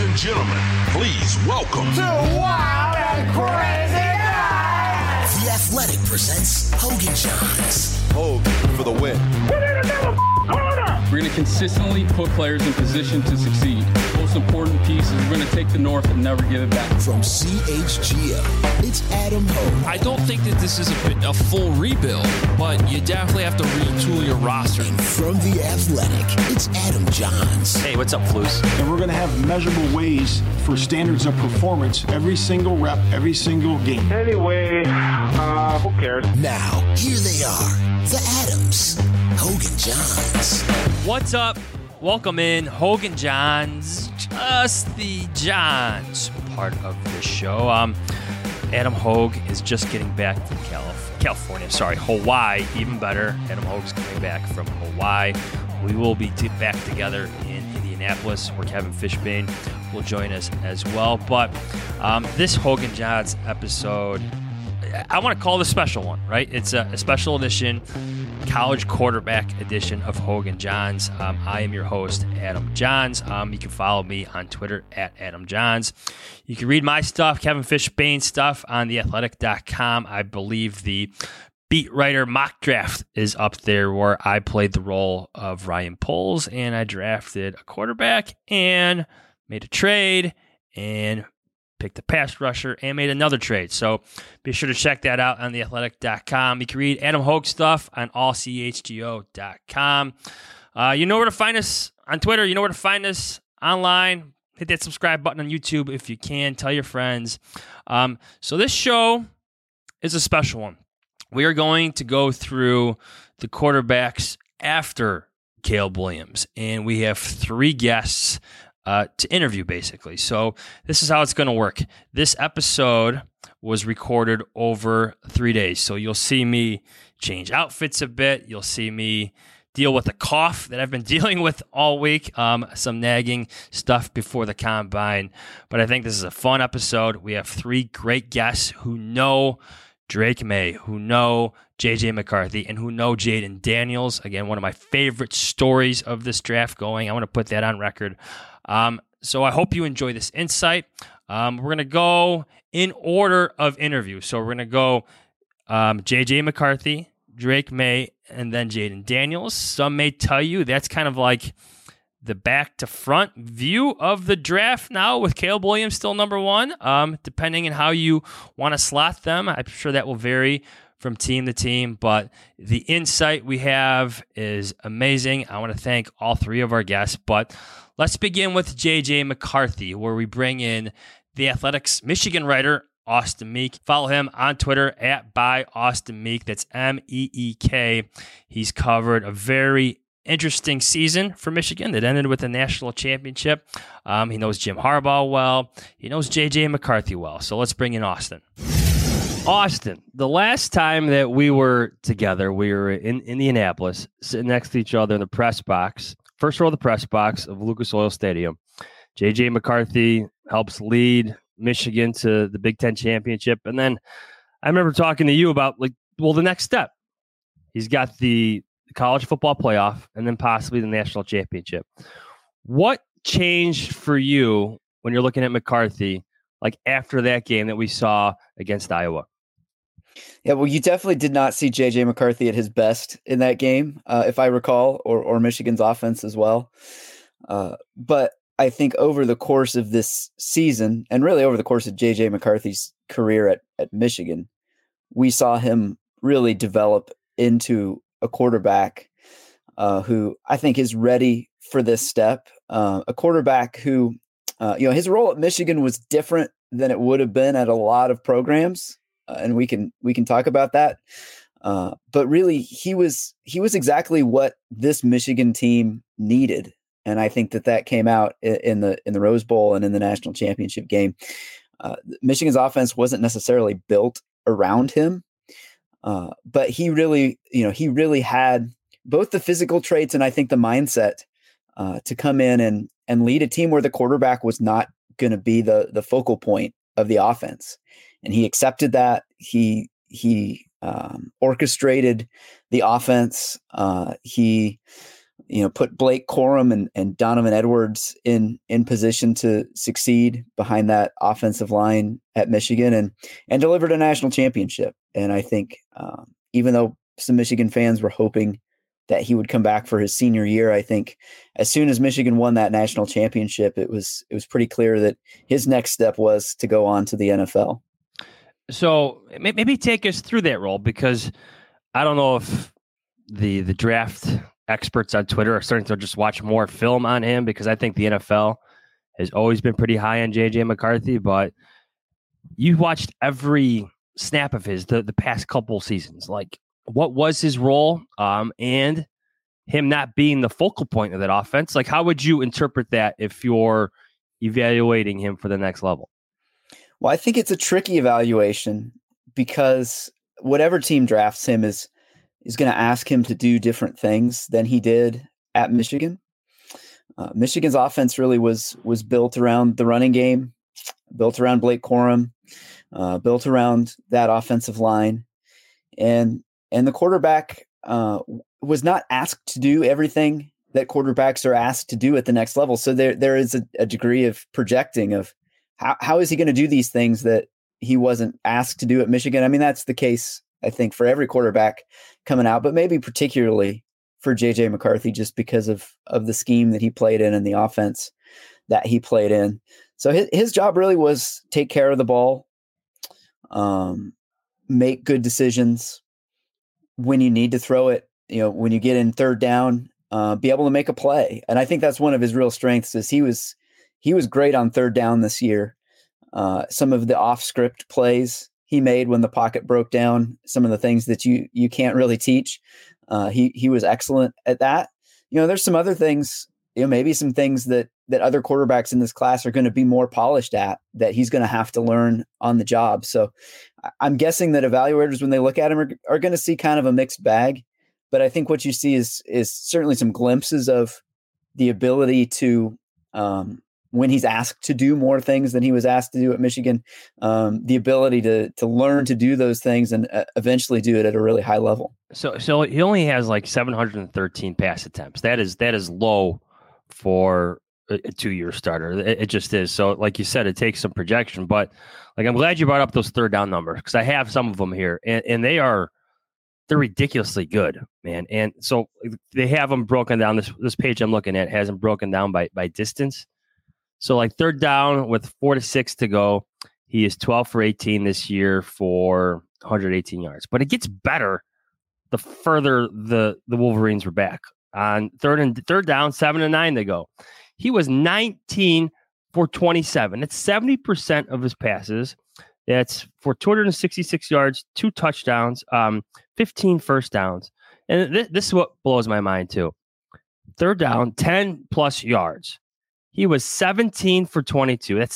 and gentlemen, please welcome to Wild and Crazy Guys. The Athletic presents Hogan Johns. Hogan for the win. Put in another corner. We're going to consistently put players in position to succeed. Most important piece is we're going to take the North and never give it back. From CHGO, it's Adam Hogue. I don't think that this is a full rebuild, but you definitely have to retool your roster. And from The Athletic, it's Adam Johns. Hey, what's up, Flus? And we're going to have measurable ways for standards of performance every single rep, every single game. Anyway, who cares? Now, here they are, the Adams, Hogan Johns. What's up? Welcome in, Hogan Johns, just the Johns part of the show. Adam Hogue is just getting back from Hawaii, even better. Adam Hogue's coming back from Hawaii. We will be back together in Indianapolis, where Kevin Fishbane will join us as well. But this Hogan Johns episode, I want to call it a special one, right? It's a special edition, college quarterback edition of Hogan Johns. I am your host, Adam Johns. You can follow me on Twitter at Adam Johns. You can read my stuff, Kevin Fishbane stuff, on theathletic.com. I believe the Beat Writer mock draft is up there, where I played the role of Ryan Poles, and I drafted a quarterback and made a trade and picked a pass rusher and made another trade. So be sure to check that out on theathletic.com. You can read Adam Hogue stuff on allchgo.com. You know where to find us on Twitter. You know where to find us online. Hit that subscribe button on YouTube if you can. Tell your friends. So this show is a special one. We are going to go through the quarterbacks after Caleb Williams, and we have three guests to interview, basically. So this is how it's going to work. This episode was recorded over 3 days. So you'll see me change outfits a bit. You'll see me deal with a cough that I've been dealing with all week, some nagging stuff before the combine. But I think this is a fun episode. We have three great guests who know Drake Maye, who know J.J. McCarthy, and who know Jayden Daniels. Again, one of my favorite stories of this draft going. I want to put that on record. So I hope you enjoy this insight. We're going to go in order of interview. So we're going to go J.J. McCarthy, Drake Maye, and then Jayden Daniels. Some may tell you that's kind of like the back to front view of the draft now, with Caleb Williams still number one, depending on how you want to slot them. I'm sure that will vary from team to team, but the insight we have is amazing. I want to thank all three of our guests, but let's begin with J.J. McCarthy, where we bring in the Athletics Michigan writer, Austin Meek. Follow him on Twitter at @ByAustinMeek. That's MEEK. He's covered a very interesting season for Michigan that ended with a national championship. He knows Jim Harbaugh well. He knows J.J. McCarthy well. So let's bring in Austin. Austin, the last time that we were together, we were in Indianapolis, sitting next to each other in the press box, first row of the press box of Lucas Oil Stadium. J.J. McCarthy helps lead Michigan to the Big Ten championship. And then I remember talking to you about, the next step. He's got the college football playoff and then possibly the national championship. What changed for you when you're looking at McCarthy, after that game that we saw against Iowa? Yeah, well, you definitely did not see J.J. McCarthy at his best in that game, if I recall, or Michigan's offense as well. But I think over the course of this season, and really over the course of J.J. McCarthy's career at Michigan, we saw him really develop into a quarterback who I think is ready for this step. A quarterback who, his role at Michigan was different than it would have been at a lot of programs. And we can talk about that. But really, he was exactly what this Michigan team needed, and I think that came out in the Rose Bowl and in the national championship game. Michigan's offense wasn't necessarily built around him, but he really had both the physical traits and I think the mindset to come in and lead a team where the quarterback was not going to be the focal point of the offense. And he accepted that. He orchestrated the offense. He put Blake Corum and Donovan Edwards in position to succeed behind that offensive line at Michigan and delivered a national championship. And I think even though some Michigan fans were hoping that he would come back for his senior year, I think as soon as Michigan won that national championship, it was pretty clear that his next step was to go on to the NFL. So maybe take us through that role, because I don't know if the draft experts on Twitter are starting to just watch more film on him, because I think the NFL has always been pretty high on JJ McCarthy, but you watched every snap of his the past couple seasons. Like, what was his role? And him not being the focal point of that offense. Like, how would you interpret that if you're evaluating him for the next level? Well, I think it's a tricky evaluation, because whatever team drafts him is going to ask him to do different things than he did at Michigan. Michigan's offense really was built around the running game, built around Blake Corum, built around that offensive line. And the quarterback was not asked to do everything that quarterbacks are asked to do at the next level. So there is a degree of projecting of how is he going to do these things that he wasn't asked to do at Michigan. I mean, that's the case, I think, for every quarterback coming out, but maybe particularly for JJ McCarthy, just because of the scheme that he played in and the offense that he played in. So his job really was take care of the ball, make good decisions when you need to throw it, when you get in third down, be able to make a play. And I think that's one of his real strengths is he was great on third down this year. Some of the off script plays he made when the pocket broke down, some of the things that you can't really teach. He was excellent at that. There's some other things, maybe some things that other quarterbacks in this class are going to be more polished at, that he's going to have to learn on the job. So I'm guessing that evaluators, when they look at him, are going to see kind of a mixed bag. But I think what you see is certainly some glimpses of the ability to, when he's asked to do more things than he was asked to do at Michigan, the ability to learn to do those things and eventually do it at a really high level. So he only has like 713 pass attempts. That is low for a 2-year starter. It just is. So like you said, it takes some projection, but like, I'm glad you brought up those third down numbers, because I have some of them here and they're ridiculously good, man. And so they have them broken down. This page I'm looking at has them broken down by distance. So like third down with 4 to 6 to go, he is 12 for 18 this year for 118 yards. But it gets better the further the Wolverines were back. On third down, 7 to 9 to go, he was 19 for 27. That's 70% of his passes. That's for 266 yards, 2 touchdowns, 15 first downs. And this is what blows my mind too. Third down, 10 plus yards. He was 17 for 22. That's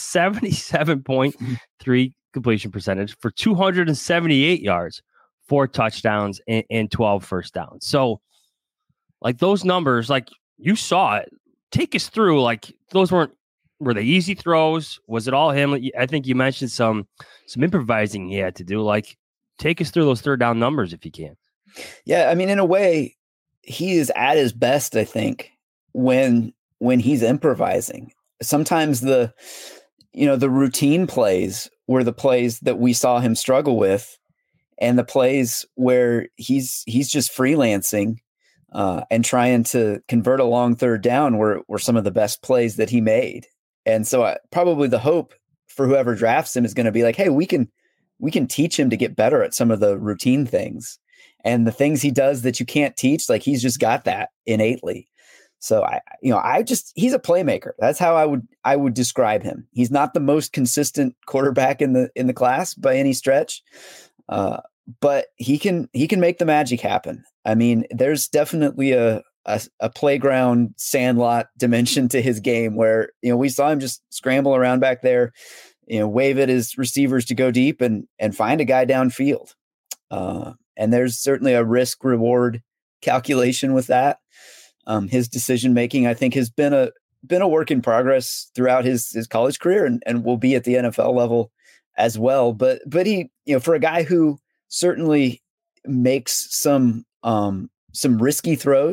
77.3 completion percentage for 278 yards, 4 touchdowns, and 12 first downs. So, like, those numbers, like, you saw it. Take us through, like, those were they easy throws? Was it all him? I think you mentioned some improvising he had to do. Like, take us through those third down numbers if you can. Yeah, I mean, in a way, he is at his best, I think, when he's improvising. Sometimes the routine plays were the plays that we saw him struggle with, and the plays where he's just freelancing and trying to convert a long third down were some of the best plays that he made. And so probably the hope for whoever drafts him is going to be like, hey, we can teach him to get better at some of the routine things, and the things he does that you can't teach, like, he's just got that innately. So he's a playmaker. That's how I would describe him. He's not the most consistent quarterback in the class by any stretch, but he can make the magic happen. I mean, there's definitely a playground sandlot dimension to his game where, we saw him just scramble around back there, wave at his receivers to go deep and find a guy downfield. And there's certainly a risk reward calculation with that. His decision-making, I think, has been a work in progress throughout his college career and will be at the NFL level as well. But he, for a guy who certainly makes some risky throws,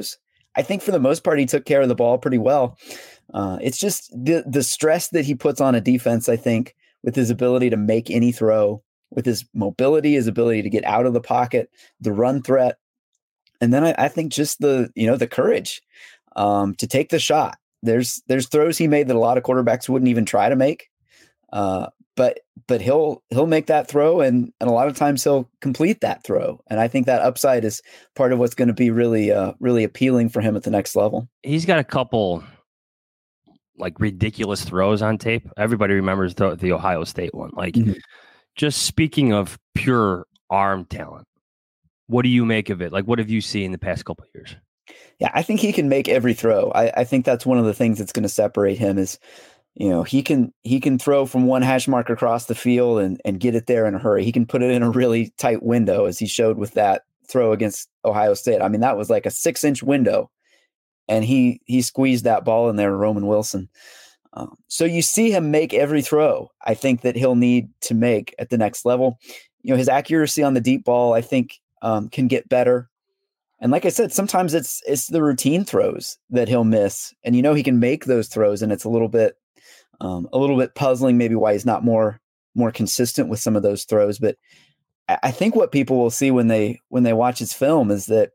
I think for the most part, he took care of the ball pretty well. It's just the stress that he puts on a defense, I think, with his ability to make any throw, with his mobility, his ability to get out of the pocket, the run threat. And then I think just the courage to take the shot. There's throws he made that a lot of quarterbacks wouldn't even try to make. But he'll make that throw, and a lot of times he'll complete that throw. And I think that upside is part of what's going to be really really appealing for him at the next level. He's got a couple like ridiculous throws on tape. Everybody remembers the Ohio State one. Like, just speaking of pure arm talent, what do you make of it? Like, what have you seen in the past couple of years? Yeah, I think he can make every throw. I think that's one of the things that's going to separate him is, he can throw from one hash mark across the field and get it there in a hurry. He can put it in a really tight window, as he showed with that throw against Ohio State. I mean, that was like a 6-inch window, and he squeezed that ball in there to Roman Wilson. So you see him make every throw I think that he'll need to make at the next level. His accuracy on the deep ball, I think, can get better. And like I said, sometimes it's the routine throws that he'll miss, and he can make those throws, and it's a little bit puzzling, maybe why he's not more consistent with some of those throws. But I think what people will see when they watch his film is that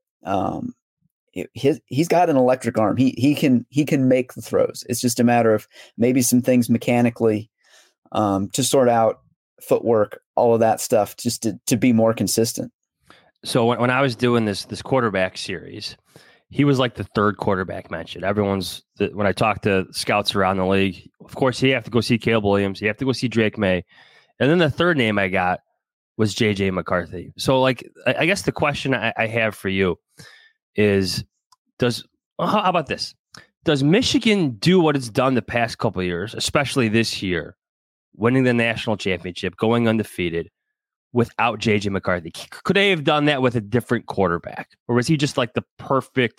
he's got an electric arm. He can make the throws. It's just a matter of maybe some things mechanically to sort out, footwork, all of that stuff, just to be more consistent. So when I was doing this quarterback series, he was like the third quarterback mentioned. When I talked to scouts around the league, of course, you have to go see Caleb Williams. You have to go see Drake May. And then the third name I got was J.J. McCarthy. So, like, I guess the question I have for you is, how about this? Does Michigan do what it's done the past couple of years, especially this year, winning the national championship, going undefeated, without J.J. McCarthy? Could they have done that with a different quarterback? Or was he just like the perfect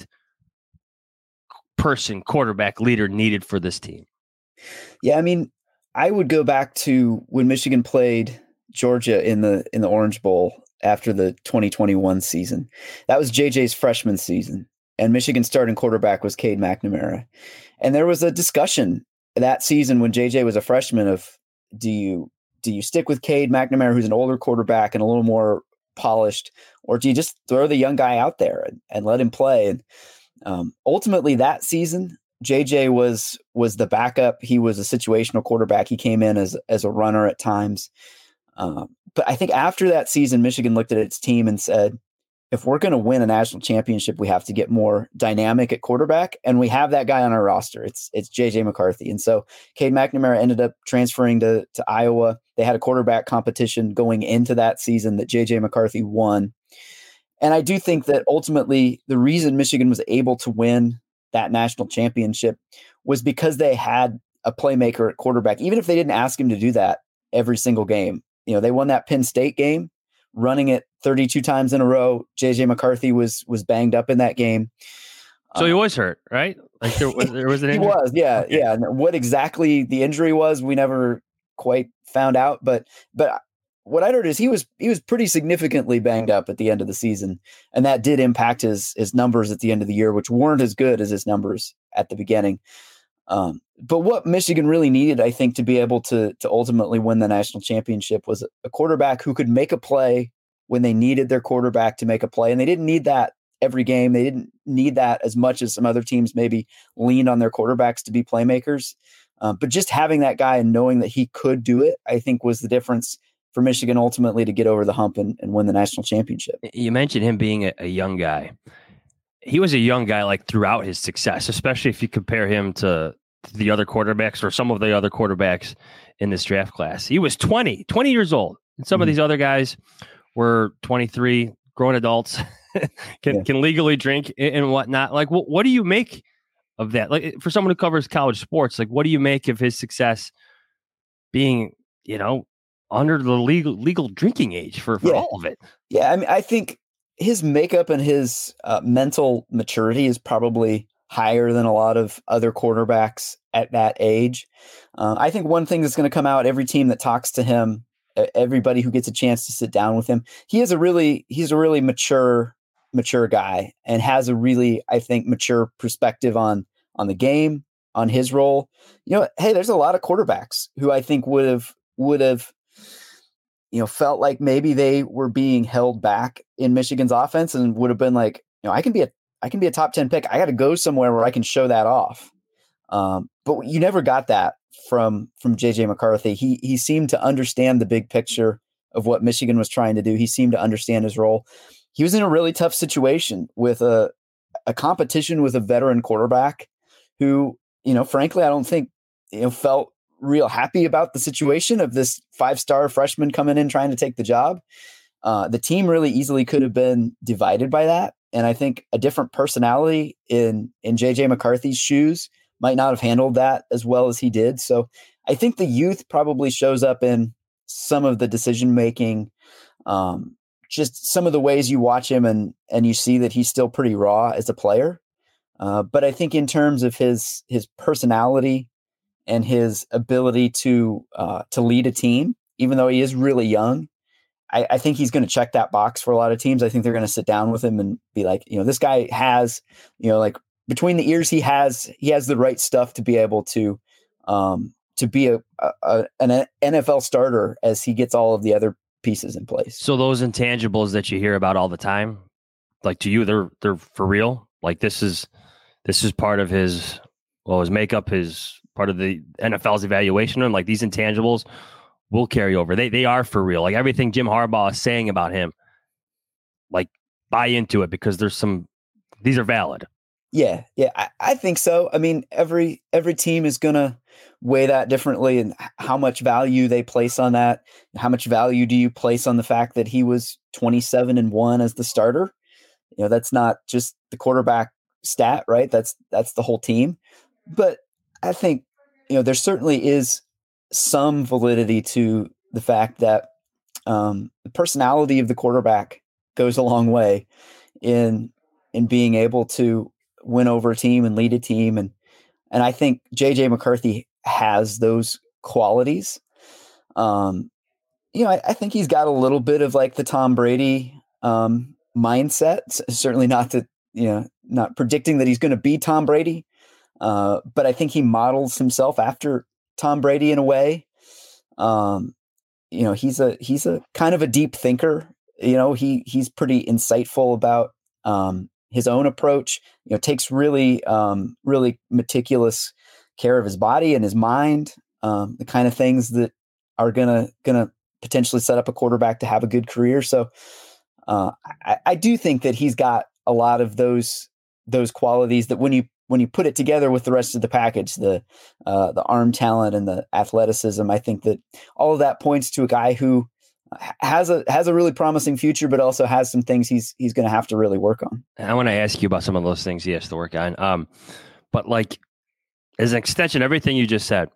quarterback leader needed for this team? Yeah, I mean, I would go back to when Michigan played Georgia in the Orange Bowl after the 2021 season. That was J.J.'s freshman season, and Michigan's starting quarterback was Cade McNamara. And there was a discussion that season when J.J. was a freshman of, do you stick with Cade McNamara, who's an older quarterback and a little more polished, or do you just throw the young guy out there and let him play? And ultimately that season, JJ was the backup. He was a situational quarterback. He came in as a runner at times. But I think after that season, Michigan looked at its team and said, if we're going to win a national championship, we have to get more dynamic at quarterback. And we have that guy on our roster. It's J.J. McCarthy. And so Cade McNamara ended up transferring to Iowa. They had a quarterback competition going into that season that J.J. McCarthy won. And I do think that ultimately the reason Michigan was able to win that national championship was because they had a playmaker at quarterback, even if they didn't ask him to do that every single game. They won that Penn State game, running it 32 times in a row. J.J. McCarthy was banged up in that game. So he was hurt, right? Like there was an injury? He was, yeah, okay. Yeah. And what exactly the injury was, we never quite found out. But what I heard is he was pretty significantly banged up at the end of the season, and that did impact his numbers at the end of the year, which weren't as good as his numbers at the beginning. But what Michigan really needed, I think, to be able to ultimately win the national championship was a quarterback who could make a play when they needed their quarterback to make a play. And they didn't need that every game. They didn't need that as much as some other teams maybe leaned on their quarterbacks to be playmakers. But just having that guy and knowing that he could do it, I think was the difference for Michigan ultimately to get over the hump and win the national championship. You mentioned him being a young guy. He was a young guy like throughout his success, especially if you compare him to the other quarterbacks or some of the other quarterbacks in this draft class. He was 20 years old. And some of these other guys were 23, grown adults, can legally drink and whatnot. Like, what do you make of that? Like, for someone who covers college sports, like, what do you make of his success being, under the legal drinking age for all of it? Yeah, I mean, I think his makeup and his mental maturity is probably higher than a lot of other quarterbacks at that age. I think one thing that's going to come out, every team that talks to him, everybody who gets a chance to sit down with him, he's a really mature mature guy and has a really, I think, mature perspective on the game, on his role. Hey, there's a lot of quarterbacks who I think would have felt like maybe they were being held back in Michigan's offense and would have been like, I can be a top 10 pick. I got to go somewhere where I can show that off. But you never got that from JJ McCarthy. He seemed to understand the big picture of what Michigan was trying to do. He seemed to understand his role. He was in a really tough situation with a competition with a veteran quarterback who, frankly, I don't think, felt real happy about the situation of this 5-star freshman coming in trying to take the job. The team really easily could have been divided by that. And I think a different personality in JJ McCarthy's shoes might not have handled that as well as he did. So I think the youth probably shows up in some of the decision-making, just some of the ways you watch him and you see that he's still pretty raw as a player. But I think in terms of his personality and his ability to lead a team, even though he is really young, I think he's going to check that box for a lot of teams. I think they're going to sit down with him and be like, this guy has, like between the ears, he has the right stuff to be able to be an NFL starter as he gets all of the other pieces in place. So those intangibles that you hear about all the time, like to you, they're for real. Like this is part of his makeup, his part of the NFL's evaluation of him. Like these intangibles will carry over. They are for real. Like everything Jim Harbaugh is saying about him, like buy into it because these are valid. Yeah. I think so. I mean, every team is going to weigh that differently and how much value they place on that. How much value do you place on the fact that he was 27-1 as the starter? That's not just the quarterback stat, right? That's the whole team. But I think, there certainly is some validity to the fact that the personality of the quarterback goes a long way in being able to win over a team and lead a team. And I think JJ McCarthy has those qualities. I think he's got a little bit of like the Tom Brady mindset, certainly not not predicting that he's going to be Tom Brady. But I think he models himself after Tom Brady in a way. He's a kind of a deep thinker. He's pretty insightful about his own approach. Takes really meticulous care of his body and his mind. The kind of things that are gonna potentially set up a quarterback to have a good career. So I do think that he's got a lot of those qualities that when you put it together with the rest of the package, the arm talent and the athleticism, I think that all of that points to a guy who has a really promising future, but also has some things he's going to have to really work on. I want to ask you about some of those things he has to work on. But like as an extension, everything you just said,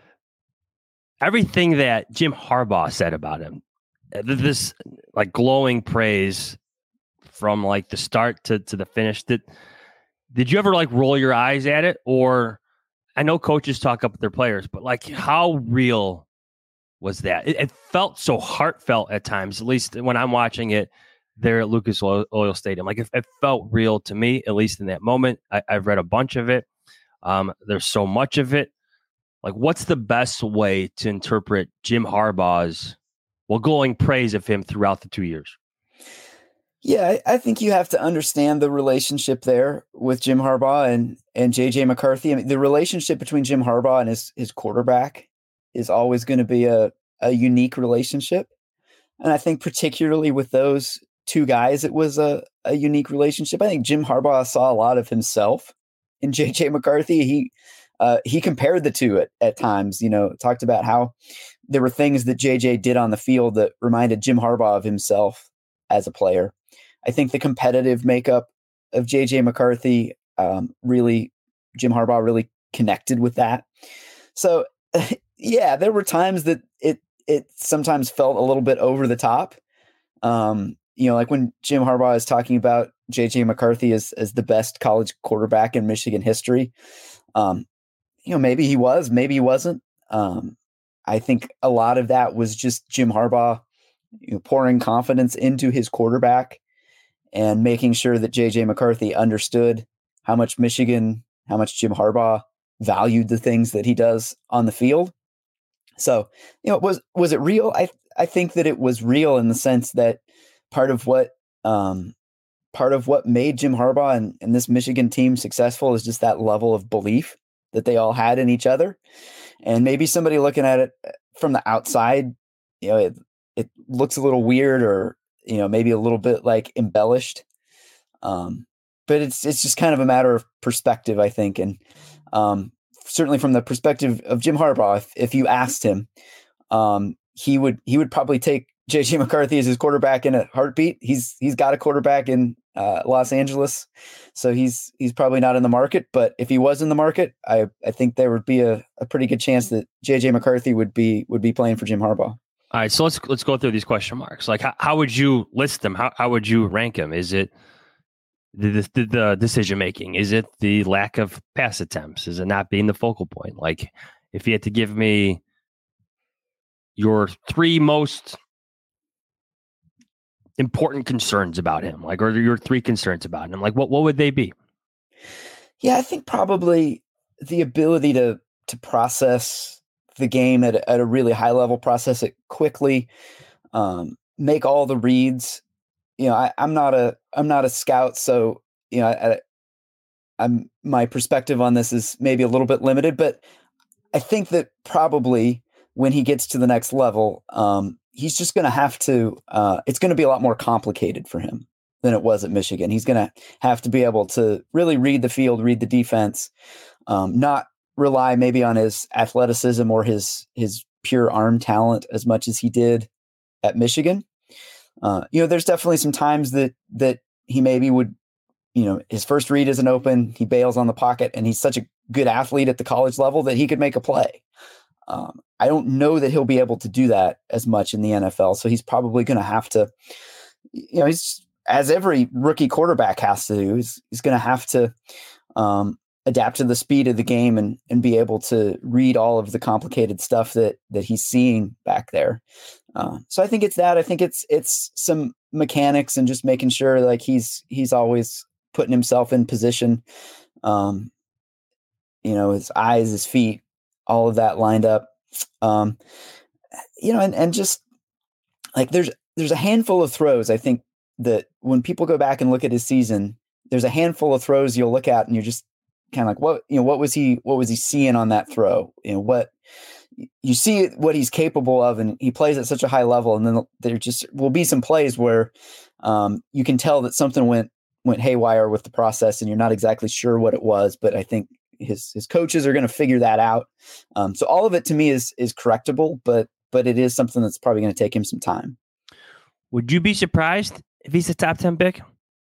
everything that Jim Harbaugh said about him, this like glowing praise from like the start to the finish, did you ever like roll your eyes at it? Or I know coaches talk up with their players, but like how real was that? It felt so heartfelt at times, at least when I'm watching it there at Lucas Oil Stadium. Like it felt real to me, at least in that moment. I've read a bunch of it. There's so much of it. Like what's the best way to interpret Jim Harbaugh's glowing praise of him throughout the 2 years? Yeah, I think you have to understand the relationship there with Jim Harbaugh and JJ McCarthy. I mean, the relationship between Jim Harbaugh and his quarterback is always going to be a unique relationship. And I think particularly with those two guys, it was a unique relationship. I think Jim Harbaugh saw a lot of himself in JJ McCarthy. He compared the two at times, talked about how there were things that JJ did on the field that reminded Jim Harbaugh of himself as a player. I think the competitive makeup of JJ McCarthy, Jim Harbaugh really connected with that. So yeah, there were times that it sometimes felt a little bit over the top. Like when Jim Harbaugh is talking about JJ McCarthy as the best college quarterback in Michigan history. Maybe he was, maybe he wasn't. I think a lot of that was just Jim Harbaugh pouring confidence into his quarterback and making sure that JJ McCarthy understood how much Jim Harbaugh valued the things that he does on the field. So, was it real? I think that it was real in the sense that part of what made Jim Harbaugh and this Michigan team successful is just that level of belief that they all had in each other. And maybe somebody looking at it from the outside, it looks a little weird or, maybe a little bit like embellished. But it's just kind of a matter of perspective, I think. And certainly from the perspective of Jim Harbaugh, if you asked him, he would probably take JJ McCarthy as his quarterback in a heartbeat. He's got a quarterback in Los Angeles, so he's probably not in the market. But if he was in the market, I think there would be a pretty good chance that JJ McCarthy would be playing for Jim Harbaugh. All right, so let's go through these question marks. Like, how would you list them? How would you rank them? Is it the decision making? Is it the lack of pass attempts? Is it not being the focal point? Like, if you had to give me your three most important concerns about him, like, or your three concerns about him, like, what would they be? Yeah, I think probably the ability to process the game at a really high level, process it quickly, make all the reads. I'm not a scout, so my perspective on this is maybe a little bit limited, but I think that probably when he gets to the next level, he's just going to have to, it's going to be a lot more complicated for him than it was at Michigan. He's going to have to be able to really read the field, read the defense, not rely maybe on his athleticism or his pure arm talent as much as he did at Michigan. There's definitely some times that he maybe would, his first read isn't open, he bails on the pocket, and he's such a good athlete at the college level that he could make a play. I don't know that he'll be able to do that as much in the NFL. So he's probably going to have to, he's, as every rookie quarterback has to do, he's going to have to adapt to the speed of the game and be able to read all of the complicated stuff that he's seeing back there. So I think it's that. I think it's some mechanics and just making sure like he's always putting himself in position. His eyes, his feet, all of that lined up. And just like there's a handful of throws. I think that when people go back and look at his season, there's a handful of throws you'll look at and you're just kind of like, what was he seeing on that throw? What you see what he's capable of, and he plays at such a high level. And then there just will be some plays where you can tell that something went haywire with the process, and you're not exactly sure what it was. But I think his coaches are going to figure that out. So all of it to me is correctable, but it is something that's probably going to take him some time. Would you be surprised if he's a top 10 pick?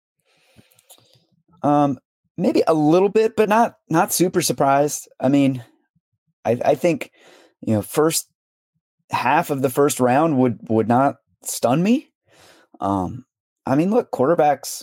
Maybe a little bit, but not super surprised. I mean, I think, first half of the first round would not stun me. I mean, look, quarterbacks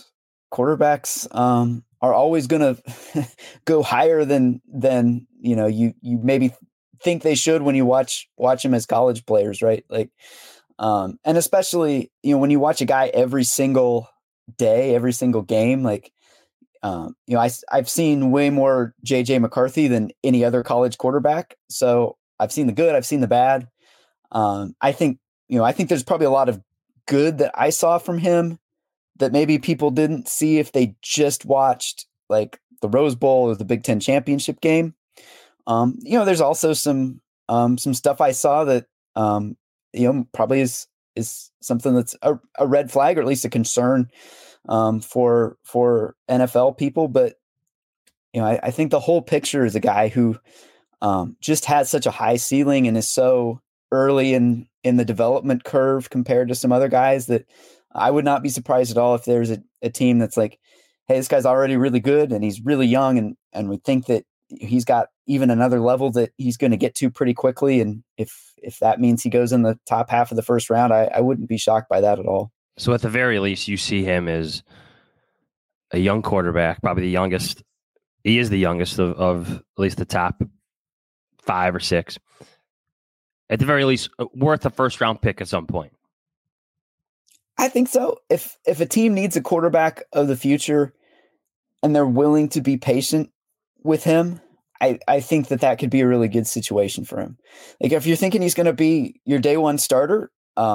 are always going to go higher than you maybe think they should when you watch them as college players, right? Like, and especially when you watch a guy every single day, every single game, like. I've seen way more JJ McCarthy than any other college quarterback. So I've seen the good, I've seen the bad. I think there's probably a lot of good that I saw from him that maybe people didn't see if they just watched like the Rose Bowl or the Big Ten championship game. There's also some stuff I saw that, probably is something that's a red flag or at least a concern for NFL people. But, I think the whole picture is a guy who just has such a high ceiling and is so early in the development curve compared to some other guys that I would not be surprised at all if there's a team that's like, hey, this guy's already really good and he's really young and we think that he's got even another level that he's going to get to pretty quickly. And if that means he goes in the top half of the first round, I wouldn't be shocked by that at all. So at the very least, you see him as a young quarterback, probably the youngest. He is the youngest of at least the top 5 or 6. At the very least, worth a first round pick at some point. I think so. If a team needs a quarterback of the future and they're willing to be patient with him, I think that could be a really good situation for him. Like if you're thinking he's going to be your day one starter,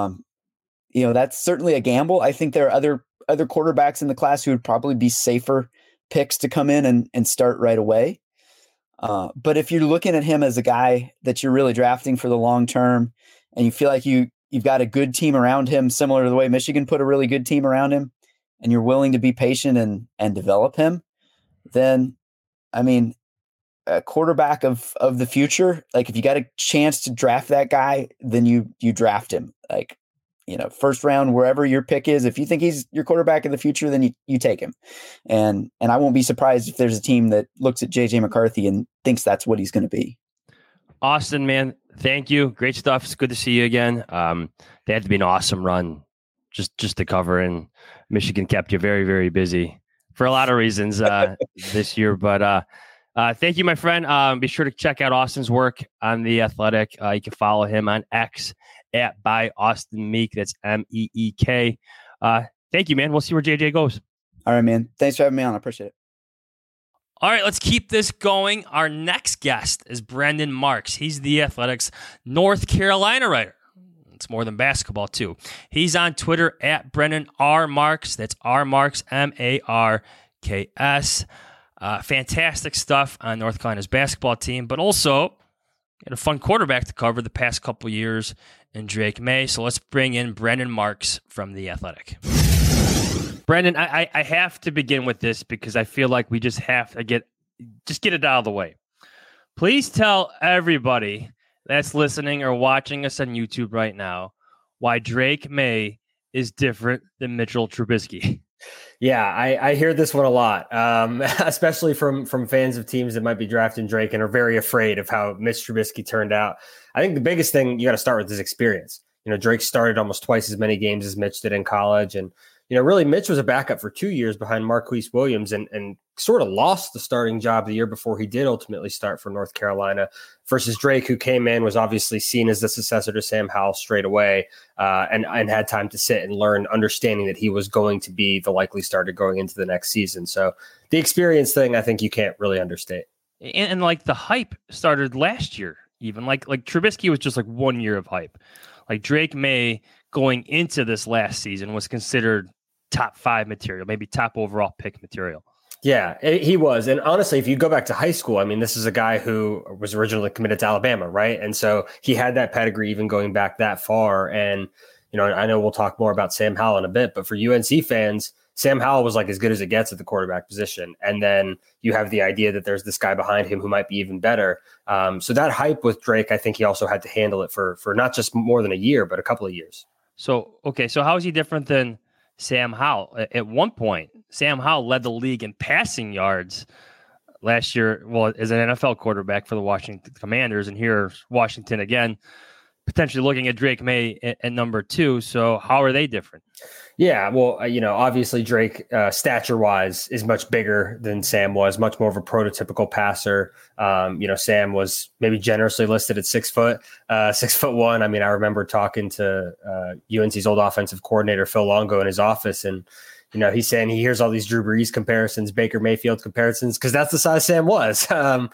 that's certainly a gamble. I think there are other quarterbacks in the class who would probably be safer picks to come in and start right away. But if you're looking at him as a guy that you're really drafting for the long term and you feel like you've got a good team around him, similar to the way Michigan put a really good team around him, and you're willing to be patient and develop him, then, I mean, a quarterback of the future, like if you got a chance to draft that guy, then you draft him. Like, first round, wherever your pick is, if you think he's your quarterback of the future, then you take him. And I won't be surprised if there's a team that looks at JJ McCarthy and thinks that's what he's going to be. Austin, man, thank you. Great stuff. It's good to see you again. They had to be an awesome run just to cover, and Michigan kept you very, very busy for a lot of reasons this year. But thank you, my friend. Be sure to check out Austin's work on The Athletic. You can follow him on X at by Austin Meek. That's MEEK. Thank you, man. We'll see where JJ goes. All right, man. Thanks for having me on. I appreciate it. All right, let's keep this going. Our next guest is Brendan Marks. He's The Athletic's North Carolina writer. It's more than basketball, too. He's on Twitter at Brendan R. Marks. That's R. Marks, MARKS. Fantastic stuff on North Carolina's basketball team, but also had a fun quarterback to cover the past couple years in Drake Maye. So let's bring in Brendan Marks from The Athletic. Brendan, I have to begin with this because I feel like we just have to get it out of the way. Please tell everybody that's listening or watching us on YouTube right now why Drake Maye is different than Mitchell Trubisky. Yeah, I hear this one a lot, especially from fans of teams that might be drafting Drake and are very afraid of how Mitch Trubisky turned out. I think the biggest thing you got to start with is experience. Drake started almost twice as many games as Mitch did in college. And, really Mitch was a backup for 2 years behind Marquise Williams and sort of lost the starting job the year before he did ultimately start for North Carolina versus Drake, who came in, was obviously seen as the successor to Sam Howell straight away and had time to sit and learn, understanding that he was going to be the likely starter going into the next season. So the experience thing, I think you can't really understate. And like the hype started last year, even like Trubisky was just like 1 year of hype. Like Drake Maye going into this last season was considered top 5 material, maybe top overall pick material. Yeah, he was. And honestly, if you go back to high school, I mean, this is a guy who was originally committed to Alabama, right? And so he had that pedigree even going back that far. And, I know we'll talk more about Sam Howell in a bit, but for UNC fans, Sam Howell was like as good as it gets at the quarterback position. And then you have the idea that there's this guy behind him who might be even better. So that hype with Drake, I think he also had to handle it for not just more than a year, but a couple of years. So how is he different than Sam Howell? At one point, Sam Howell led the league in passing yards last year, as an NFL quarterback for the Washington Commanders. And here, Washington again, potentially looking at Drake Maye at number 2. So how are they different? Yeah, well, obviously Drake, stature-wise, is much bigger than Sam was, much more of a prototypical passer. Sam was maybe generously listed at 6 foot, 6'1". I mean, I remember talking to UNC's old offensive coordinator, Phil Longo, in his office, and he's saying he hears all these Drew Brees comparisons, Baker Mayfield comparisons, because that's the size Sam was.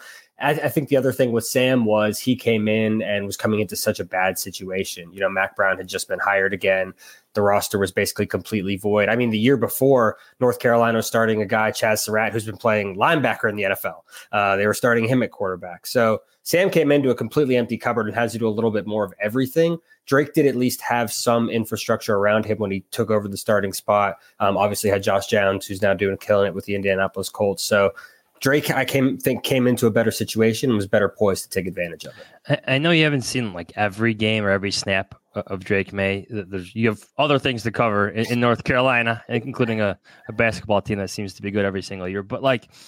I think the other thing with Sam was he came in and was coming into such a bad situation. Mac Brown had just been hired again. The roster was basically completely void. I mean, the year before, North Carolina was starting a guy, Chaz Surratt, who's been playing linebacker in the NFL. They were starting him at quarterback. So Sam came into a completely empty cupboard and had to do a little bit more of everything. Drake did at least have some infrastructure around him when he took over the starting spot. Obviously had Josh Downs, who's now killing it with the Indianapolis Colts. So Drake, I came into a better situation and was better poised to take advantage of it. I know you haven't seen like every game or every snap of Drake Maye. You have other things to cover in North Carolina, including a basketball team that seems to be good every single year. But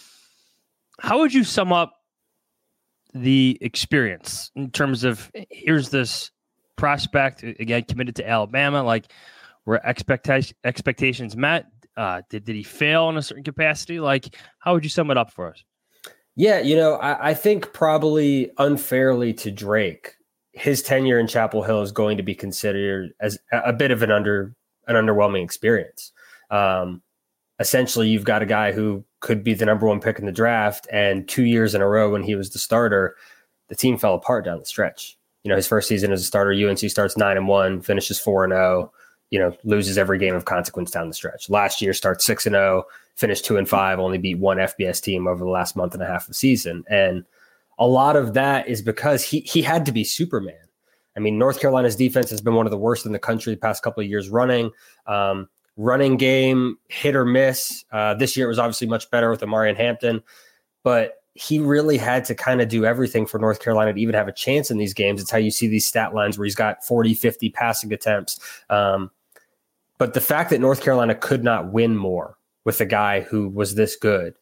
how would you sum up the experience in terms of here's this prospect, again, committed to Alabama, were expectations met? Did he fail in a certain capacity? How would you sum it up for us? Yeah, I think probably unfairly to Drake, his tenure in Chapel Hill is going to be considered as a bit of an an underwhelming experience. Essentially, you've got a guy who could be the number one pick in the draft, and 2 years in a row when he was the starter, the team fell apart down the stretch. His first season as a starter, UNC starts 9-1, finishes 4-0, loses every game of consequence down the stretch. Last year starts 6-0, finished 2-5, only beat one FBS team over the last month and a half of the season. And a lot of that is because he had to be Superman. I mean, North Carolina's defense has been one of the worst in the country the past couple of years running. Running game, hit or miss. This year it was obviously much better with Amarian Hampton, but he really had to kind of do everything for North Carolina to even have a chance in these games. It's how you see these stat lines where he's got 40, 50 passing attempts. But the fact that North Carolina could not win more with a guy who was this good,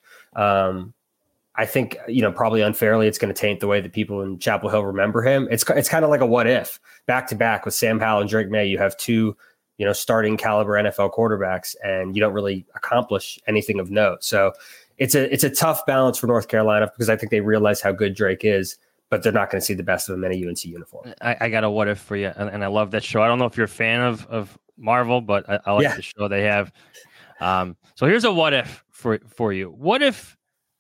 I think, probably unfairly, it's going to taint the way that people in Chapel Hill remember him. It's kind of like a what if back to back with Sam Howell and Drake May. You have two, starting caliber NFL quarterbacks, and you don't really accomplish anything of note. So it's a tough balance for North Carolina because I think they realize how good Drake is, but they're not going to see the best of him in a UNC uniform. I got a what if for you, and I love that show. I don't know if you're a fan of Marvel, but I like the show they have. So here's a what if for you. What if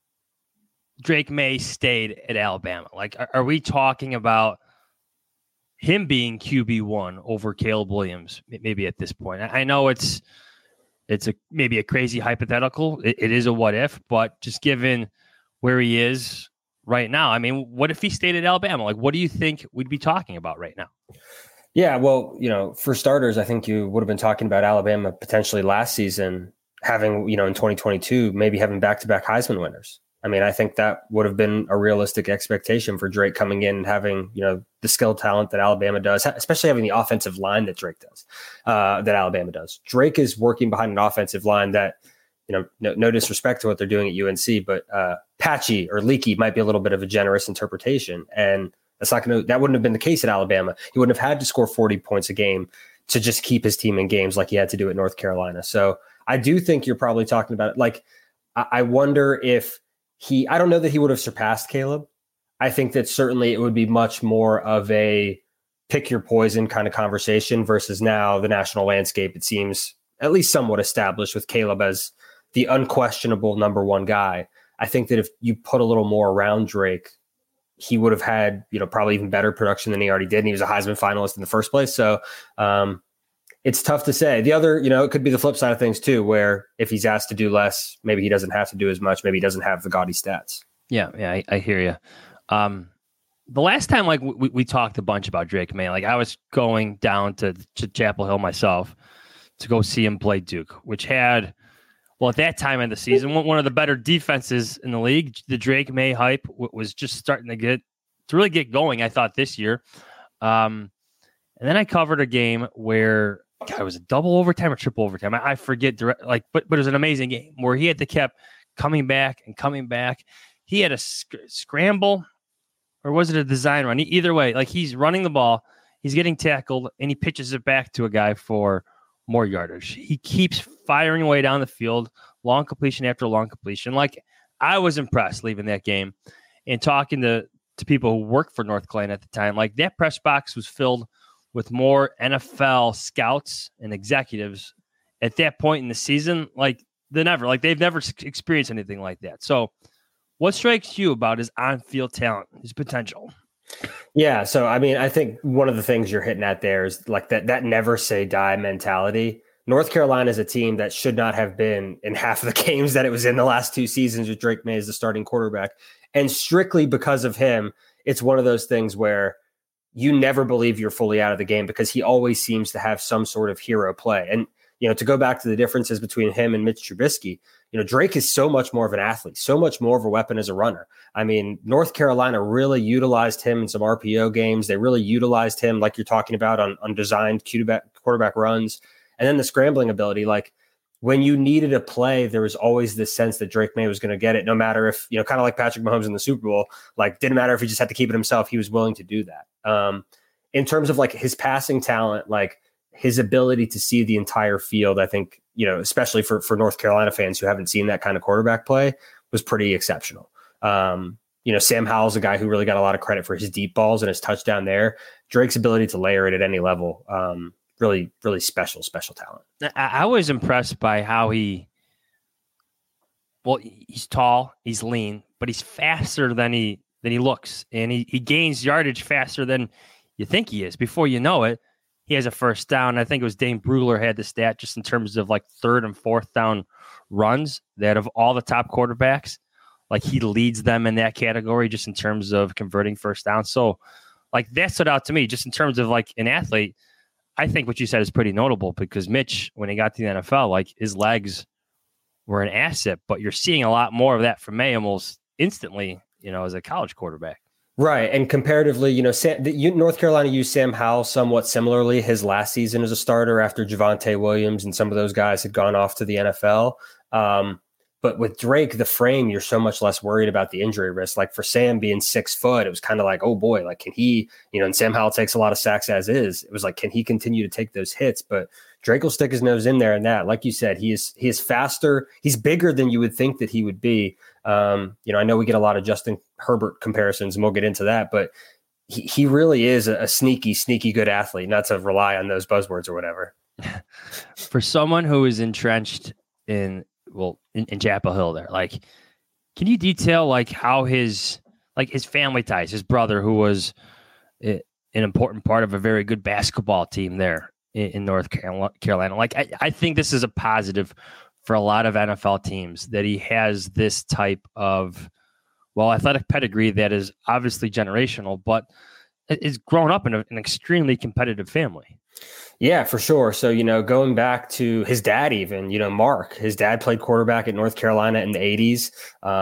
Drake May stayed at Alabama? Like, are we talking about him being QB1 over Caleb Williams maybe at this point? I know it's maybe a crazy hypothetical. It is a what if, but just given where he is right now, I mean, what if he stayed at Alabama? Like, what do you think we'd be talking about right now? Yeah, well, for starters, I think you would have been talking about Alabama potentially last season having, in 2022, maybe having back-to-back Heisman winners. I mean, I think that would have been a realistic expectation for Drake coming in and having, the skill talent that Alabama does, especially having the offensive line that Drake does, that Alabama does. Drake is working behind an offensive line that, no disrespect to what they're doing at UNC, but patchy or leaky might be a little bit of a generous interpretation. And that wouldn't have been the case at Alabama. He wouldn't have had to score 40 points a game to just keep his team in games like he had to do at North Carolina. So I do think you're probably talking about it. Like, I wonder if I don't know that he would have surpassed Caleb. I think that certainly it would be much more of a pick your poison kind of conversation versus now the national landscape, it seems at least somewhat established with Caleb as the unquestionable number one guy. I think that if you put a little more around Drake, he would have had, probably even better production than he already did. And he was a Heisman finalist in the first place. So it's tough to say. The other, it could be the flip side of things too, where if he's asked to do less, maybe he doesn't have to do as much. Maybe he doesn't have the gaudy stats. Yeah, I hear you. The last time, like we talked a bunch about Drake May, like I was going down to Chapel Hill myself to go see him play Duke, which had, well, at that time in the season, one of the better defenses in the league. The Drake May hype was just starting to really get going, I thought, this year. And then I covered a game where it was a double overtime or triple overtime. I forget, but it was an amazing game where he had to kept coming back and coming back. He had a scramble, or was it a design run? Either way, like he's running the ball, he's getting tackled, and he pitches it back to a guy for more yardage. He keeps firing away down the field, long completion after long completion. Like, I was impressed leaving that game and talking to people who worked for North Carolina at the time. Like, that press box was filled with more NFL scouts and executives at that point in the season, they've never experienced anything like that. So what strikes you about his on-field talent, his potential? Yeah. So, I mean, I think one of the things you're hitting at there is like that never say die mentality. North Carolina is a team that should not have been in half of the games that it was in the last two seasons with Drake May as the starting quarterback. And strictly because of him, it's one of those things where you never believe you're fully out of the game because he always seems to have some sort of hero play. And, to go back to the differences between him and Mitch Trubisky, Drake is so much more of an athlete, so much more of a weapon as a runner. I mean, North Carolina really utilized him in some RPO games. They really utilized him, like you're talking about, on designed quarterback runs. And then the scrambling ability, like when you needed a play, there was always this sense that Drake May was going to get it, no matter if, kind of like Patrick Mahomes in the Super Bowl, like didn't matter if he just had to keep it himself. He was willing to do that. In terms of like his passing talent, like his ability to see the entire field, I think, especially for North Carolina fans who haven't seen that kind of quarterback play, was pretty exceptional. Sam Howell's a guy who really got a lot of credit for his deep balls and his touchdown there. Drake's ability to layer it at any level really, really special talent. I was impressed by how he's tall, he's lean, but he's faster than he looks. And he gains yardage faster than you think he is. Before you know it, he has a first down. I think it was Dane Brugler had the stat just in terms of like third and fourth down runs, that of all the top quarterbacks, like he leads them in that category just in terms of converting first down. So like that stood out to me just in terms of like an athlete. I think what you said is pretty notable because Mitch, when he got to the NFL, like his legs were an asset, but you're seeing a lot more of that from May almost instantly, as a college quarterback. Right. And comparatively, North Carolina used Sam Howell somewhat similarly his last season as a starter after Javonte Williams and some of those guys had gone off to the NFL. But with Drake, the frame, you're so much less worried about the injury risk. Like for Sam being 6 foot, it was kind of like, oh boy, like can he, and Sam Howell takes a lot of sacks as is. It was like, can he continue to take those hits? But Drake will stick his nose in there, and that, like you said, he is faster. He's bigger than you would think that he would be. I know we get a lot of Justin Herbert comparisons, and we'll get into that, but he really is a sneaky good athlete, not to rely on those buzzwords or whatever. For someone who is entrenched in Chapel Hill there, like, can you detail like how his family ties, his brother, who was an important part of a very good basketball team there in North Carolina. Like, I think this is a positive for a lot of NFL teams that he has this type of, athletic pedigree that is obviously generational, but is grown up in an extremely competitive family. Yeah, for sure. So, going back to his dad, even, Mark, his dad played quarterback at North Carolina in the 80s.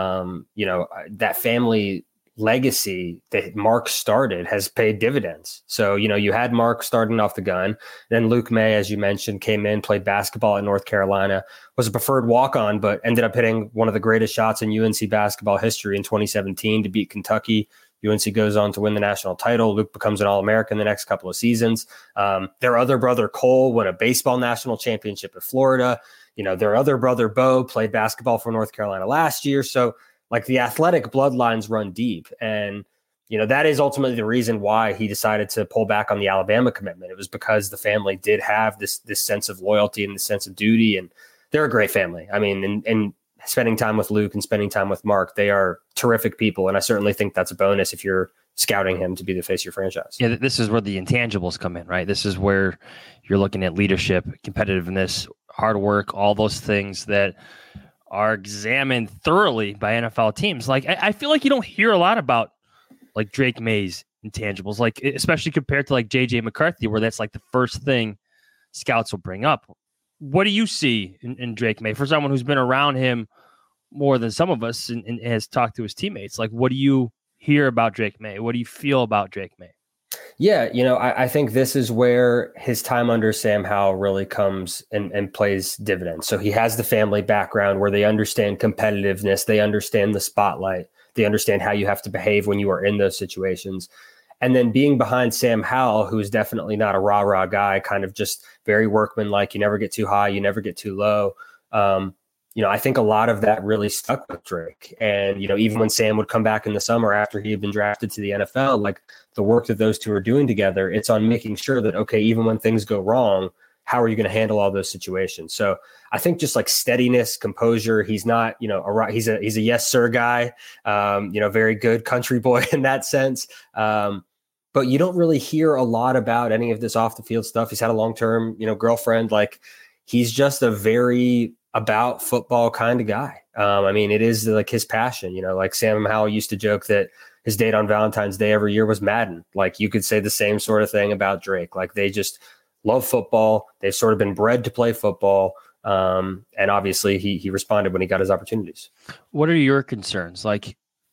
That family legacy that Mark started has paid dividends. So, you had Mark starting off the gun. Then Luke May, as you mentioned, came in, played basketball at North Carolina, was a preferred walk-on, but ended up hitting one of the greatest shots in UNC basketball history in 2017 to beat Kentucky. UNC goes on to win the national title. Luke becomes an All-American the next couple of seasons. Their other brother, Cole, won a baseball national championship at Florida. Their other brother, Bo, played basketball for North Carolina last year. So, like, the athletic bloodlines run deep. And, that is ultimately the reason why he decided to pull back on the Alabama commitment. It was because the family did have this sense of loyalty and this sense of duty. And they're a great family. I mean, and spending time with Luke and spending time with Mark, they are terrific people. And I certainly think that's a bonus if you're scouting him to be the face of your franchise. Yeah, this is where the intangibles come in, right? This is where you're looking at leadership, competitiveness, hard work, all those things that are examined thoroughly by NFL teams. Like, I feel like you don't hear a lot about like Drake May's intangibles, like especially compared to like JJ McCarthy, where that's like the first thing scouts will bring up. What do you see in Drake May for someone who's been around him more than some of us and has talked to his teammates? Like, what do you hear about Drake May? What do you feel about Drake May? Yeah, I think this is where his time under Sam Howell really comes and plays dividends. So he has the family background where they understand competitiveness, they understand the spotlight, they understand how you have to behave when you are in those situations. And then being behind Sam Howell, who's definitely not a rah-rah guy, kind of just very workmanlike. You never get too high, you never get too low. I think a lot of that really stuck with Drake. And, even when Sam would come back in the summer after he had been drafted to the NFL, like the work that those two are doing together, it's on making sure that, okay, even when things go wrong, how are you going to handle all those situations? So I think just like steadiness, composure, he's not, he's a yes, sir guy, very good country boy in that sense. But you don't really hear a lot about any of this off the field stuff. He's had a long-term, girlfriend. Like, he's just a very about football kind of guy. It is like his passion, like Sam Howell used to joke that his date on Valentine's Day every year was Madden. Like, you could say the same sort of thing about Drake. Like, they just love football. They've sort of been bred to play football. And obviously he responded when he got his opportunities. What are your concerns? Like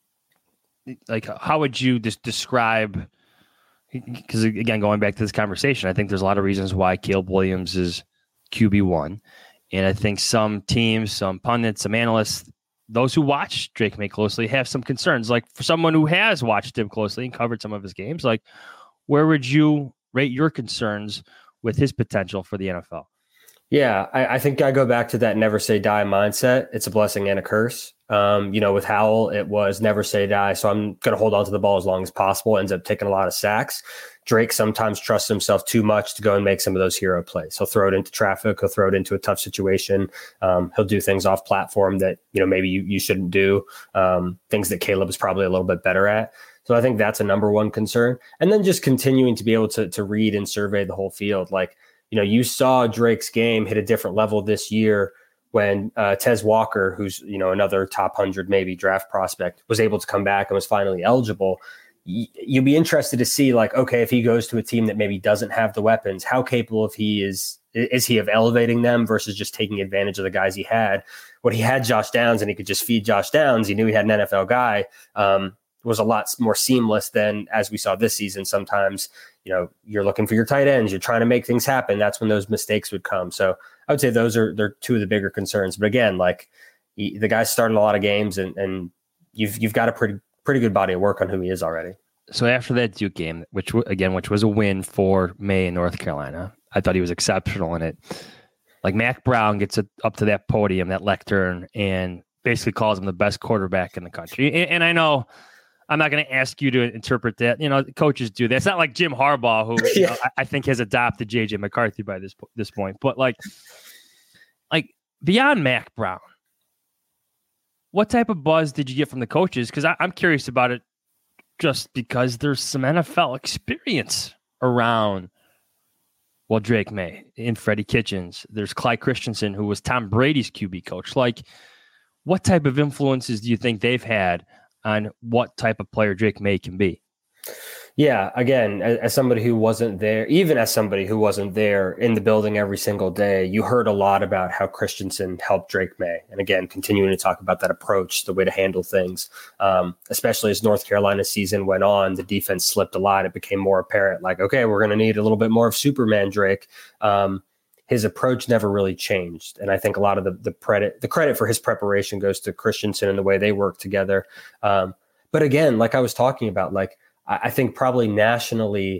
how would you just describe, because again, going back to this conversation, I think there's a lot of reasons why Caleb Williams is QB1. And I think some teams, some pundits, some analysts, those who watch Drake May closely have some concerns. Like, for someone who has watched him closely and covered some of his games, like, where would you rate your concerns with his potential for the NFL? Yeah, I think I go back to that never say die mindset. It's a blessing and a curse. With Howell, it was never say die. So I'm going to hold on to the ball as long as possible. Ends up taking a lot of sacks. Drake sometimes trusts himself too much to go and make some of those hero plays. He'll throw it into traffic. He'll throw it into a tough situation. He'll do things off platform that, maybe you shouldn't do. Things that Caleb is probably a little bit better at. So I think that's a number one concern. And then just continuing to be able to read and survey the whole field. Like, you saw Drake's game hit a different level this year when Tez Walker, who's, another top 100 maybe draft prospect, was able to come back and was finally eligible. You'd be interested to see, like, okay, if he goes to a team that maybe doesn't have the weapons, how capable of is he of elevating them versus just taking advantage of the guys he had. When he had Josh Downs and he could just feed Josh Downs, he knew he had an NFL guy, was a lot more seamless than as we saw this season. Sometimes, you're looking for your tight ends, you're trying to make things happen. That's when those mistakes would come. So I would say they're two of the bigger concerns. But again, like the guy started a lot of games and you've got a pretty good body of work on who he is already. So after that Duke game, which was a win for May in North Carolina, I thought he was exceptional in it. Like Mack Brown gets up to that podium, that lectern, and basically calls him the best quarterback in the country. And I know I'm not going to ask you to interpret that. Coaches do that. It's not like Jim Harbaugh, who I think has adopted J.J. McCarthy by this point. But like beyond Mack Brown, what type of buzz did you get from the coaches? Because I'm curious about it just because there's some NFL experience around, Drake May and Freddie Kitchens. There's Clyde Christensen, who was Tom Brady's QB coach. Like, what type of influences do you think they've had on what type of player Drake May can be? Yeah, again, as somebody who wasn't there, even as somebody who wasn't there in the building every single day, you heard a lot about how Christensen helped Drake May. And again, continuing to talk about that approach, the way to handle things, especially as North Carolina's season went on, the defense slipped a lot. It became more apparent, like, okay, we're going to need a little bit more of Superman Drake. His approach never really changed. And I think a lot of the credit for his preparation goes to Christensen and the way they work together. But again, like I was talking about, like, I think probably nationally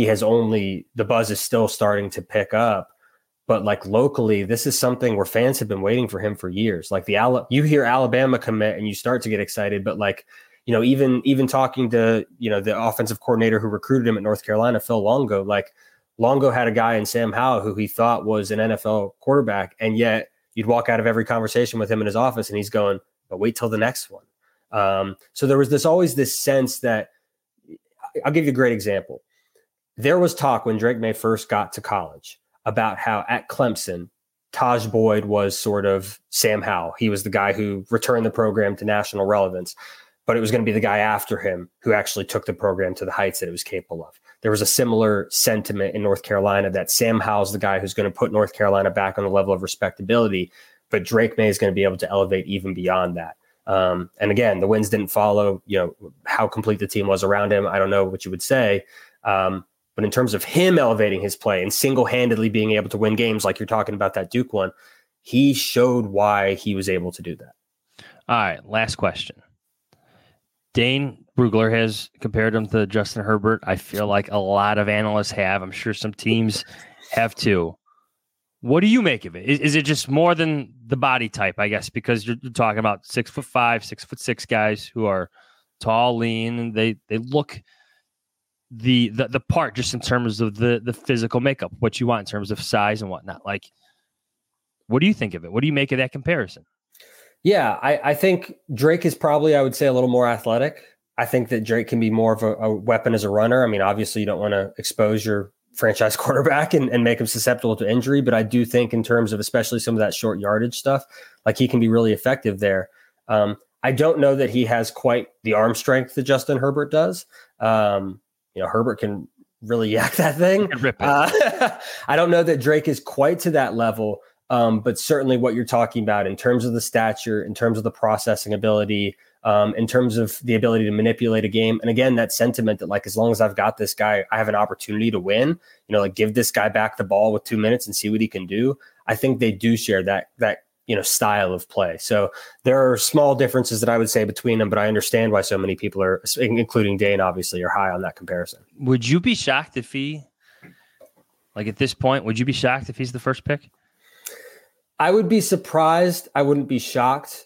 the buzz is still starting to pick up, but like locally, this is something where fans have been waiting for him for years. Like you hear Alabama commit and you start to get excited, but like, even talking to, the offensive coordinator who recruited him at North Carolina, Phil Longo, like Longo had a guy in Sam Howell who he thought was an NFL quarterback. And yet you'd walk out of every conversation with him in his office and he's going, but wait till the next one. So there was always this sense that, I'll give you a great example. There was talk when Drake May first got to college about how at Clemson, Taj Boyd was sort of Sam Howell. He was the guy who returned the program to national relevance, but it was going to be the guy after him who actually took the program to the heights that it was capable of. There was a similar sentiment in North Carolina that Sam Howell's the guy who's going to put North Carolina back on the level of respectability, but Drake May is going to be able to elevate even beyond that. And again, the wins didn't follow, how complete the team was around him. I don't know what you would say. But in terms of him elevating his play and single-handedly being able to win games, like you're talking about that Duke one, he showed why he was able to do that. All right. Last question. Dane Brugler has compared him to Justin Herbert. I feel like a lot of analysts have. I'm sure some teams have too. What do you make of it? Is it just more than the body type, I guess, because you're talking about 6'5", 6'6" guys who are tall, lean, and they look the part just in terms of the physical makeup, what you want in terms of size and whatnot. Like, what do you think of it? What do you make of that comparison? Yeah, I think Drake is probably, I would say, a little more athletic. I think that Drake can be more of a weapon as a runner. I mean, obviously you don't want to expose your franchise quarterback and make him susceptible to injury. But I do think in terms of especially some of that short yardage stuff, like he can be really effective there. I don't know that he has quite the arm strength that Justin Herbert does. Herbert can really yak that thing. Rip it. I don't know that Drake is quite to that level. But certainly what you're talking about in terms of the stature, in terms of the processing ability, in terms of the ability to manipulate a game. And again, that sentiment that like, as long as I've got this guy, I have an opportunity to win, like give this guy back the ball with 2 minutes and see what he can do. I think they do share that style of play. So there are small differences that I would say between them, but I understand why so many people are, including Dane, obviously, are high on that comparison. Would you be shocked if at this point, would you be shocked if he's the first pick? I would be surprised. I wouldn't be shocked.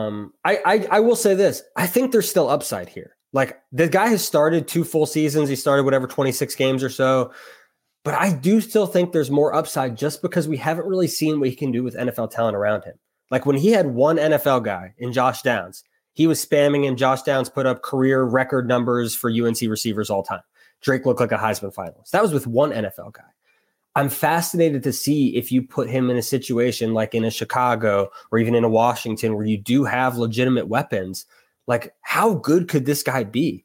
I will say this. I think there's still upside here. Like, the guy has started 2 full seasons. He started 26 games or so. But I do still think there's more upside just because we haven't really seen what he can do with NFL talent around him. Like, when he had one NFL guy in Josh Downs, he was spamming, and Josh Downs put up career record numbers for UNC receivers all time. Drake looked like a Heisman finalist. That was with one NFL guy. I'm fascinated to see if you put him in a situation like in a Chicago or even in a Washington where you do have legitimate weapons. Like, how good could this guy be?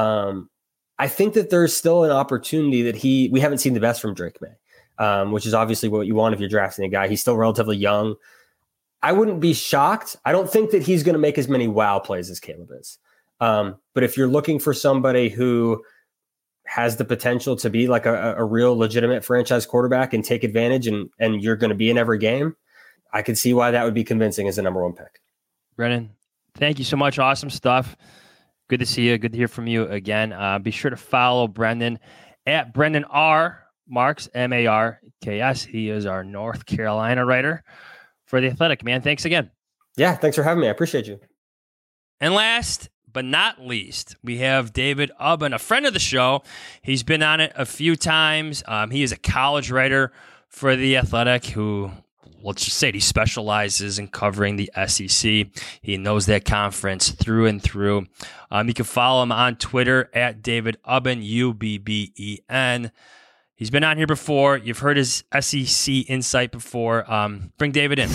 I think that there's still an opportunity that we haven't seen the best from Drake May, which is obviously what you want if you're drafting a guy. He's still relatively young. I wouldn't be shocked. I don't think that he's going to make as many wow plays as Caleb is. But if you're looking for somebody who has the potential to be like a real legitimate franchise quarterback and take advantage and you're going to be in every game, I could see why that would be convincing as a number 1 pick. Brennan, thank you so much. Awesome stuff. Good to see you. Good to hear from you again. Be sure to follow Brendan at Brendan R. Marks, Marks. He is our North Carolina writer for The Athletic. Man, thanks again. Yeah, thanks for having me. I appreciate you. And last but not least, we have David Ubben, a friend of the show. He's been on it a few times. He is a college writer for The Athletic who, let's just say, he specializes in covering the SEC. He knows that conference through and through. You can follow him on Twitter at David Ubben, Ubben. He's been on here before. You've heard his SEC insight before. Bring David in.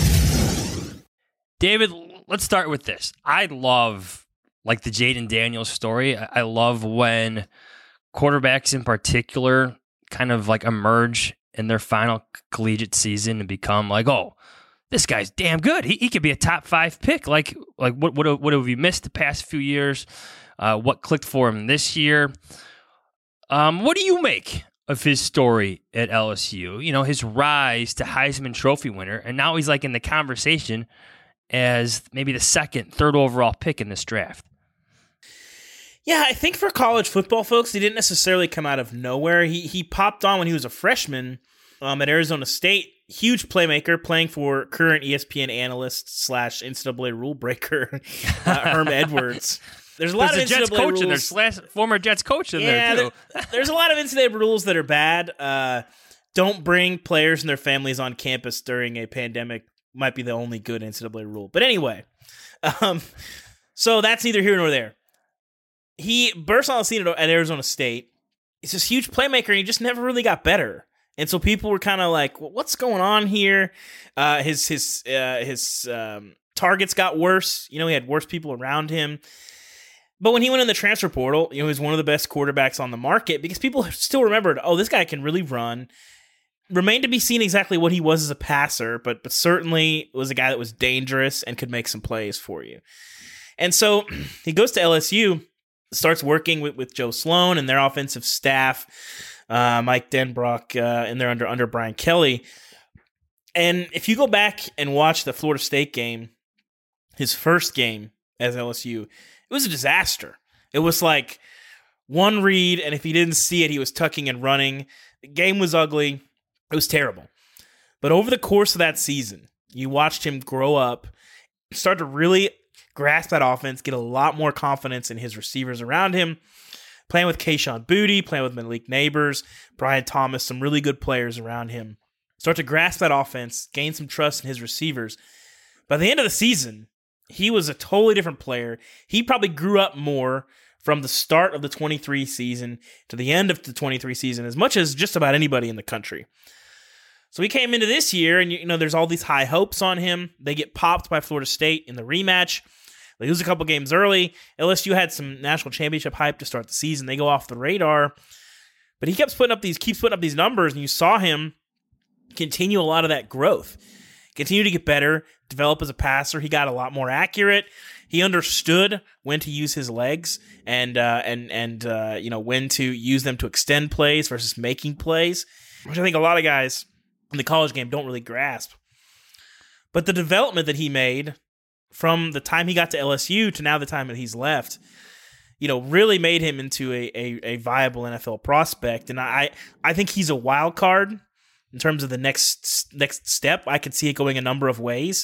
David, let's start with this. I love like the Jaden Daniels story. I love when quarterbacks in particular kind of like emerge in their final collegiate season and become like, oh, this guy's damn good. He could be a top 5 pick. Like what have you missed the past few years? What clicked for him this year? What do you make of his story at LSU? You know, his rise to Heisman Trophy winner, and now he's like in the conversation as maybe the 2nd, 3rd overall pick in this draft. Yeah, I think for college football folks, he didn't necessarily come out of nowhere. He popped on when he was a freshman at Arizona State. Huge playmaker, playing for current ESPN analyst / NCAA rule breaker Herm Edwards. There's a lot of Jets NCAA coach rules. There's former Jets coach in there too. There's a lot of NCAA rules that are bad. Don't bring players and their families on campus during a pandemic. Might be the only good NCAA rule. But anyway, so that's neither here nor there. He burst on the scene at Arizona State. He's this huge playmaker, and he just never really got better. And so people were kind of like, well, "What's going on here?" His targets got worse. You know, he had worse people around him. But when he went in the transfer portal, you know, he was one of the best quarterbacks on the market because people still remembered, oh, this guy can really run. Remained to be seen exactly what he was as a passer, but certainly was a guy that was dangerous and could make some plays for you. And so he goes to LSU, starts working with Joe Sloan and their offensive staff, Mike Denbrock, and they're under Brian Kelly. And if you go back and watch the Florida State game, his first game as LSU, it was a disaster. It was like one read, and if he didn't see it, he was tucking and running. The game was ugly. It was terrible. But over the course of that season, you watched him grow up, start to really grasp that offense, get a lot more confidence in his receivers around him, playing with Kayshon Boutte, playing with Malik Neighbors, Brian Thomas, some really good players around him. Start to grasp that offense, gain some trust in his receivers. By the end of the season, he was a totally different player. He probably grew up more from the start of the 23 season to the end of the 23 season as much as just about anybody in the country. So he came into this year, and you know there's all these high hopes on him. They get popped by Florida State in the rematch. They lose a couple games early. LSU had some national championship hype to start the season. They go off the radar. But he keeps putting up these numbers, and you saw him continue a lot of that growth. Continue to get better, develop as a passer. He got a lot more accurate. He understood when to use his legs and when to use them to extend plays versus making plays, which I think a lot of guys in the college game don't really grasp. But the development that he made from the time he got to LSU to now the time that he's left, you know, really made him into a viable NFL prospect. And I think he's a wild card in terms of the next step, I could see it going a number of ways.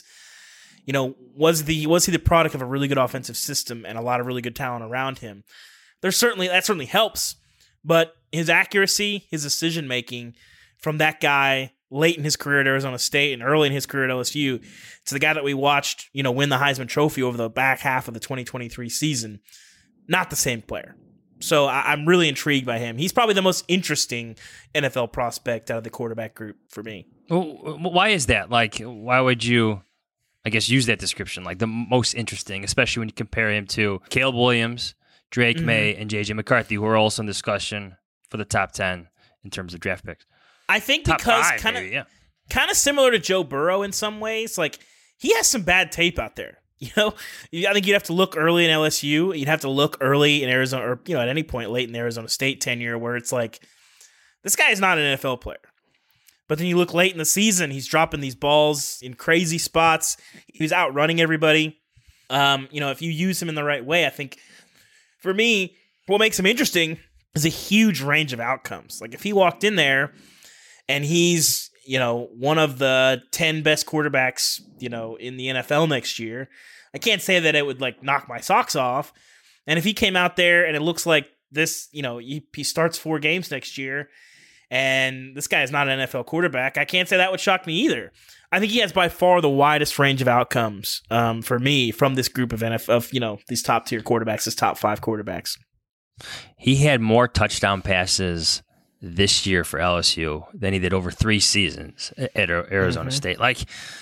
Was he the product of a really good offensive system and a lot of really good talent around him? That certainly helps, but his accuracy, his decision making from that guy late in his career at Arizona State and early in his career at LSU to the guy that we watched, win the Heisman Trophy over the back half of the 2023 season, not the same player. So I'm really intrigued by him. He's probably the most interesting NFL prospect out of the quarterback group for me. Well, why is that? Like, why would you, I guess, use that description? Like the most interesting, especially when you compare him to Caleb Williams, Drake May, and J.J. McCarthy, who are also in discussion for the top 10 in terms of draft picks. I think because kind of similar to Joe Burrow in some ways, like he has some bad tape out there. I think you'd have to look early in LSU. You'd have to look early in Arizona, or at any point late in the Arizona State tenure, where it's like this guy is not an NFL player. But then you look late in the season, he's dropping these balls in crazy spots. He's outrunning everybody. If you use him in the right way, I think for me, what makes him interesting is a huge range of outcomes. Like if he walked in there and he's one of the 10 best quarterbacks, in the NFL next year, I can't say that it would like knock my socks off. And if he came out there and it looks like this, he starts 4 games next year and this guy is not an NFL quarterback, I can't say that would shock me either. I think he has by far the widest range of outcomes for me from this group of these top tier quarterbacks, this top 5 quarterbacks. He had more touchdown passes this year for LSU than he did over 3 seasons at Arizona State. Like,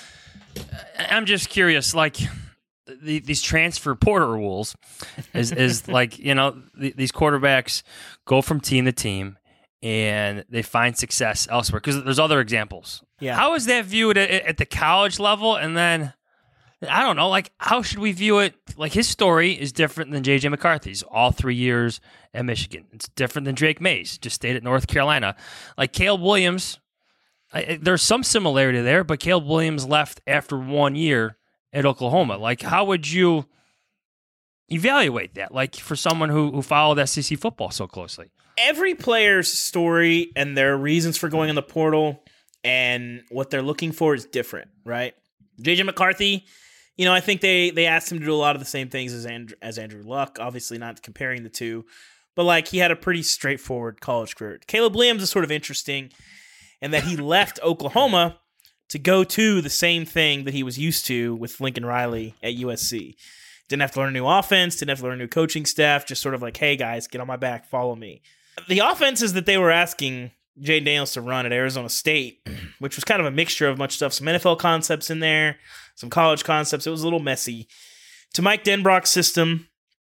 I'm just curious, like these transfer portal rules is like, these quarterbacks go from team to team and they find success elsewhere because there's other examples. Yeah. How is that viewed at the college level? And then, I don't know, like how should we view it? Like his story is different than J.J. McCarthy's, all 3 years at Michigan. It's different than Drake May's, just stayed at North Carolina. Like Caleb Williams, there's some similarity there, but Caleb Williams left after 1 year at Oklahoma. Like how would you evaluate that? Like for someone who followed SEC football so closely. Every player's story and their reasons for going in the portal and what they're looking for is different, right? J.J. McCarthy, I think they asked him to do a lot of the same things as Andrew Luck, obviously not comparing the two, but like he had a pretty straightforward college career. Caleb Williams is sort of interesting in that he left Oklahoma to go to the same thing that he was used to with Lincoln Riley at USC. Didn't have to learn a new offense, didn't have to learn a new coaching staff, just sort of like, hey guys, get on my back, follow me. The offenses that they were asking Jayden Daniels to run at Arizona State, which was kind of a mixture of much stuff, some NFL concepts in there, some college concepts. It was a little messy. To Mike Denbrock's system,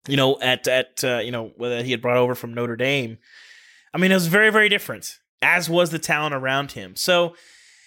whether he had brought over from Notre Dame, I mean, it was very, very different, as was the talent around him. So,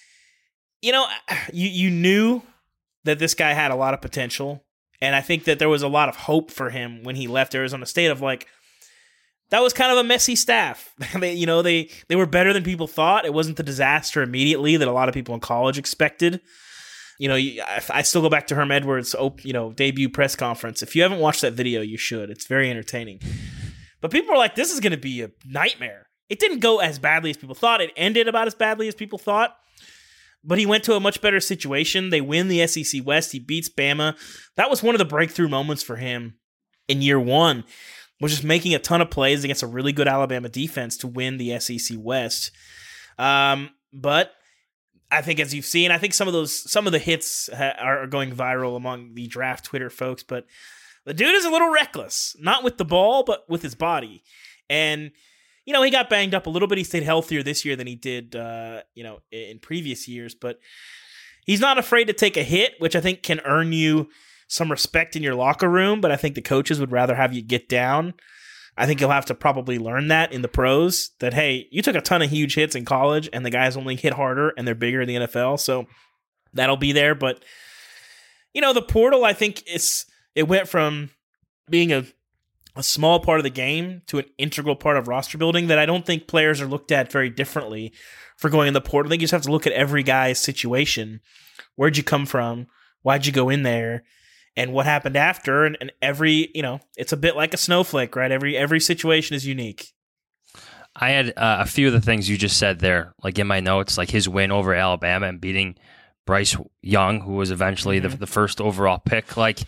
you knew that this guy had a lot of potential, and I think that there was a lot of hope for him when he left Arizona State of like, that was kind of a messy staff. They were better than people thought. It wasn't the disaster immediately that a lot of people in college expected. I still go back to Herm Edwards' debut press conference. If you haven't watched that video, you should. It's very entertaining. But people were like, this is going to be a nightmare. It didn't go as badly as people thought. It ended about as badly as people thought. But he went to a much better situation. They win the SEC West. He beats Bama. That was one of the breakthrough moments for him in year one, was just making a ton of plays against a really good Alabama defense to win the SEC West. But I think, as you've seen, I think some of the hits are going viral among the draft Twitter folks, but the dude is a little reckless, not with the ball, but with his body. And, he got banged up a little bit. He stayed healthier this year than he did, in previous years, but he's not afraid to take a hit, which I think can earn you some respect in your locker room, but I think the coaches would rather have you get down. I think you'll have to probably learn that in the pros, that, hey, you took a ton of huge hits in college and the guys only hit harder and they're bigger in the NFL. So that'll be there. But, the portal, I think it went from being a small part of the game to an integral part of roster building that I don't think players are looked at very differently for going in the portal. I think you just have to look at every guy's situation. Where'd you come from? Why'd you go in there? And what happened after, and every, it's a bit like a snowflake, right? Every situation is unique. I had a few of the things you just said there, like in my notes, like his win over Alabama and beating Bryce Young, who was eventually the first overall pick. Like,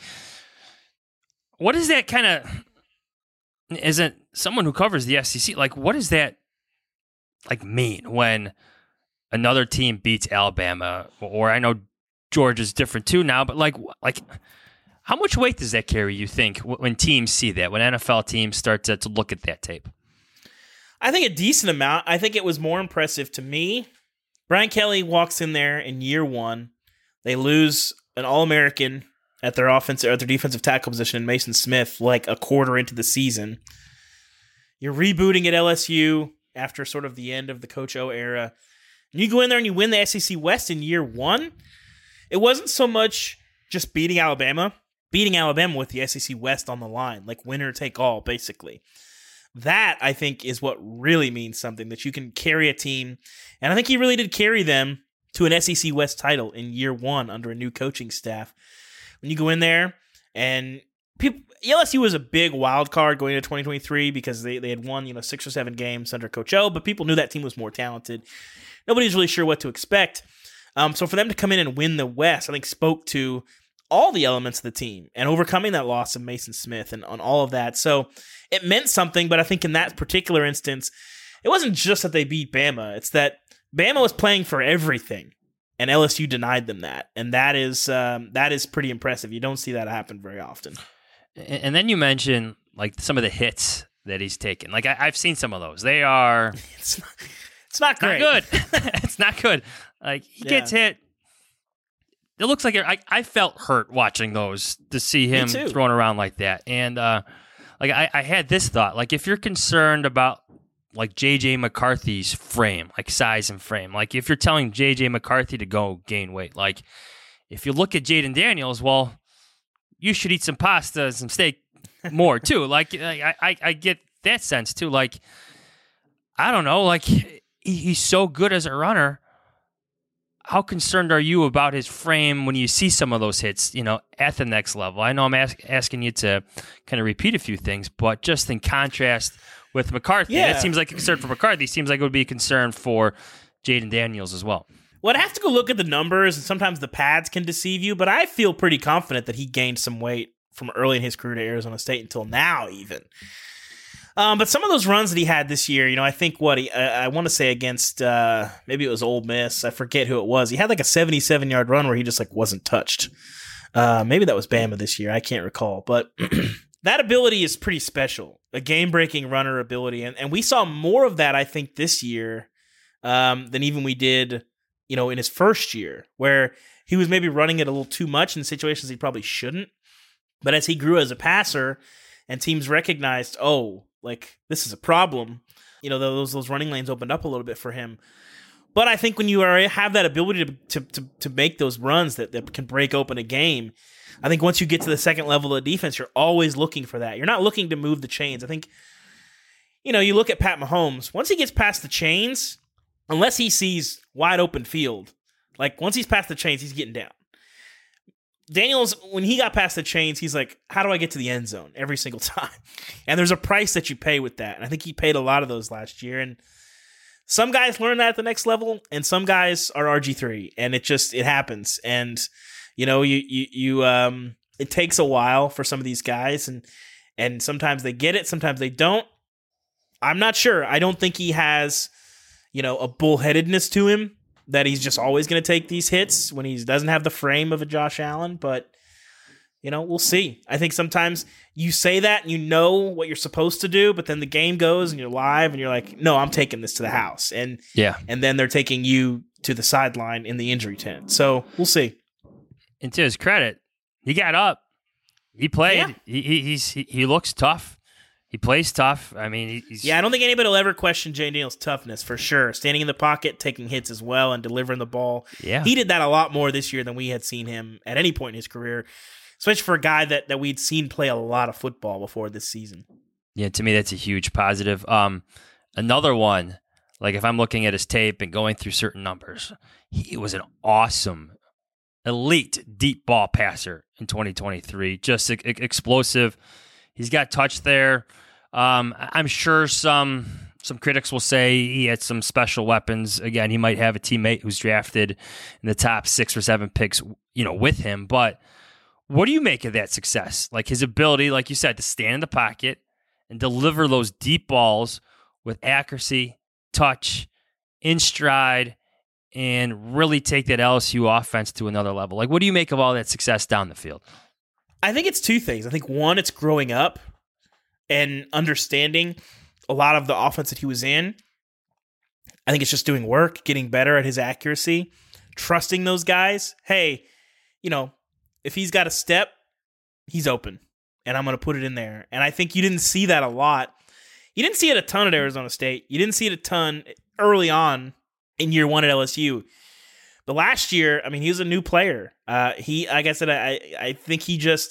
what is that kind of, as someone who covers the SEC, like, what does that like mean when another team beats Alabama? Or I know Georgia's different too now, but like how much weight does that carry, you think, when teams see that, when NFL teams start to look at that tape? I think a decent amount. I think it was more impressive to me. Brian Kelly walks in there in year one. They lose an All-American at their defensive tackle position, Mason Smith, like a quarter into the season. You're rebooting at LSU after sort of the end of the Coach O era. And you go in there and you win the SEC West in year one. It wasn't so much just beating Alabama with the SEC West on the line, like winner take all, basically. That, I think, is what really means something, that you can carry a team. And I think he really did carry them to an SEC West title in year one under a new coaching staff. When you go in there, and LSU was a big wild card going into 2023 because they had won 6 or 7 games under Coach O, but people knew that team was more talented. Nobody's really sure what to expect. So for them to come in and win the West, I think spoke to all the elements of the team and overcoming that loss of Mason Smith and on all of that. So it meant something, but I think in that particular instance, it wasn't just that they beat Bama. It's that Bama was playing for everything, and LSU denied them that. And that is pretty impressive. You don't see that happen very often. And then you mentioned like some of the hits that he's taken. Like I've seen some of those. They are... It's not great. Not good. It's not good. Like he gets hit. It looks like I felt hurt watching those, to see him thrown around like that. And like I had this thought, like if you're concerned about like J.J. McCarthy's frame, like size and frame, like if you're telling J.J. McCarthy to go gain weight, like if you look at Jaden Daniels, well, you should eat some pasta, some steak more too. Like I get that sense too. Like, I don't know, like he's so good as a runner. How concerned are you about his frame when you see some of those hits, at the next level? I know I'm asking you to kind of repeat a few things, but just in contrast with McCarthy, that seems like a concern for McCarthy. Seems like it would be a concern for Jaden Daniels as well. Well, I'd have to go look at the numbers, and sometimes the pads can deceive you, but I feel pretty confident that he gained some weight from early in his career to Arizona State until now even. But some of those runs that he had this year, I think I want to say against, maybe it was Ole Miss. I forget who it was. He had like a 77-yard run where he just like wasn't touched. Maybe that was Bama this year. I can't recall. But that ability is pretty special, a game-breaking runner ability. And we saw more of that, I think, this year than even we did, in his first year, where he was maybe running it a little too much in situations he probably shouldn't. But as he grew as a passer and teams recognized, like this is a problem, those running lanes opened up a little bit for him. But I think when you have that ability to make those runs that can break open a game, I think once you get to the second level of defense, you're always looking for that. You're not looking to move the chains. I think, you look at Pat Mahomes, once he gets past the chains, unless he sees wide open field, like once he's past the chains, he's getting down. Daniels, when he got past the chains, he's like, how do I get to the end zone every single time? And there's a price that you pay with that. And I think he paid a lot of those last year. And some guys learn that at the next level, and some guys are RG3, and it happens. And, it takes a while for some of these guys, and sometimes they get it, sometimes they don't. I'm not sure. I don't think he has, a bullheadedness to him, that he's just always going to take these hits when he doesn't have the frame of a Josh Allen. But, we'll see. I think sometimes you say that and you know what you're supposed to do, but then the game goes and you're live and you're like, no, I'm taking this to the house. And then they're taking you to the sideline in the injury tent. So we'll see. And to his credit, he got up. He played. Yeah. He looks tough. He plays tough. I mean, I don't think anybody will ever question Jay Daniels' toughness, for sure. Standing in the pocket, taking hits as well, and delivering the ball. Yeah. He did that a lot more this year than we had seen him at any point in his career, especially for a guy that we'd seen play a lot of football before this season. Yeah, to me, that's a huge positive. Another one, like if I'm looking at his tape and going through certain numbers, he was an awesome, elite deep ball passer in 2023. Just explosive. He's got touch there. I'm sure some Some critics will say he had some special weapons. Again, he might have a teammate who's drafted in the top 6 or 7 picks, with him. But what do you make of that success? Like his ability, like you said, to stand in the pocket and deliver those deep balls with accuracy, touch, in stride, and really take that LSU offense to another level. Like, what do you make of all that success down the field? I think it's 2 things. I think one, it's growing up and understanding a lot of the offense that he was in. I think it's just doing work, getting better at his accuracy, trusting those guys. Hey, if he's got a step, he's open, and I'm going to put it in there. And I think you didn't see that a lot. You didn't see it a ton at Arizona State. You didn't see it a ton early on in year 1 at LSU. But last year, he was a new player. Like I said, I think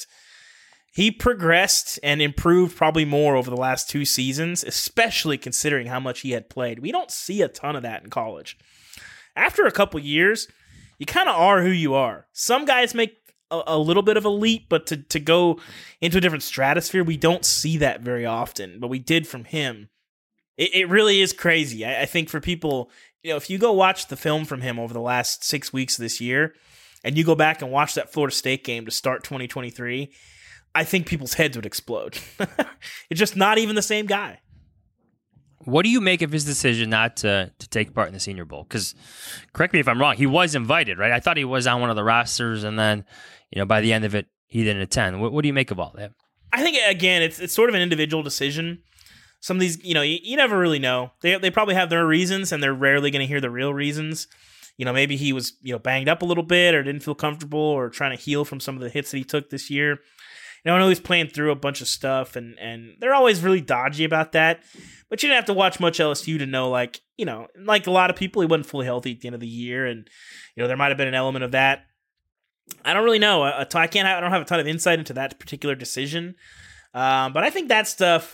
he progressed and improved probably more over the last 2 seasons, especially considering how much he had played. We don't see a ton of that in college. After a couple years, you kind of are who you are. Some guys make a little bit of a leap, but to go into a different stratosphere, we don't see that very often. But we did from him. It really is crazy. I think for people, if you go watch the film from him over the last 6 weeks of this year, and you go back and watch that Florida State game to start 2023, I think people's heads would explode. It's just not even the same guy. What do you make of his decision not to take part in the Senior Bowl? Because, correct me if I'm wrong, he was invited, right? I thought he was on one of the rosters, and then, by the end of it, he didn't attend. What do you make of all that? I think, again, it's sort of an individual decision. Some of these, you never really know. They probably have their reasons, and they're rarely going to hear the real reasons. Maybe he was, banged up a little bit or didn't feel comfortable or trying to heal from some of the hits that he took this year. I know he's playing through a bunch of stuff, and they're always really dodgy about that. But you didn't have to watch much LSU to know, like a lot of people, he wasn't fully healthy at the end of the year, and there might have been an element of that. I don't really know. I don't have a ton of insight into that particular decision, but I think that stuff.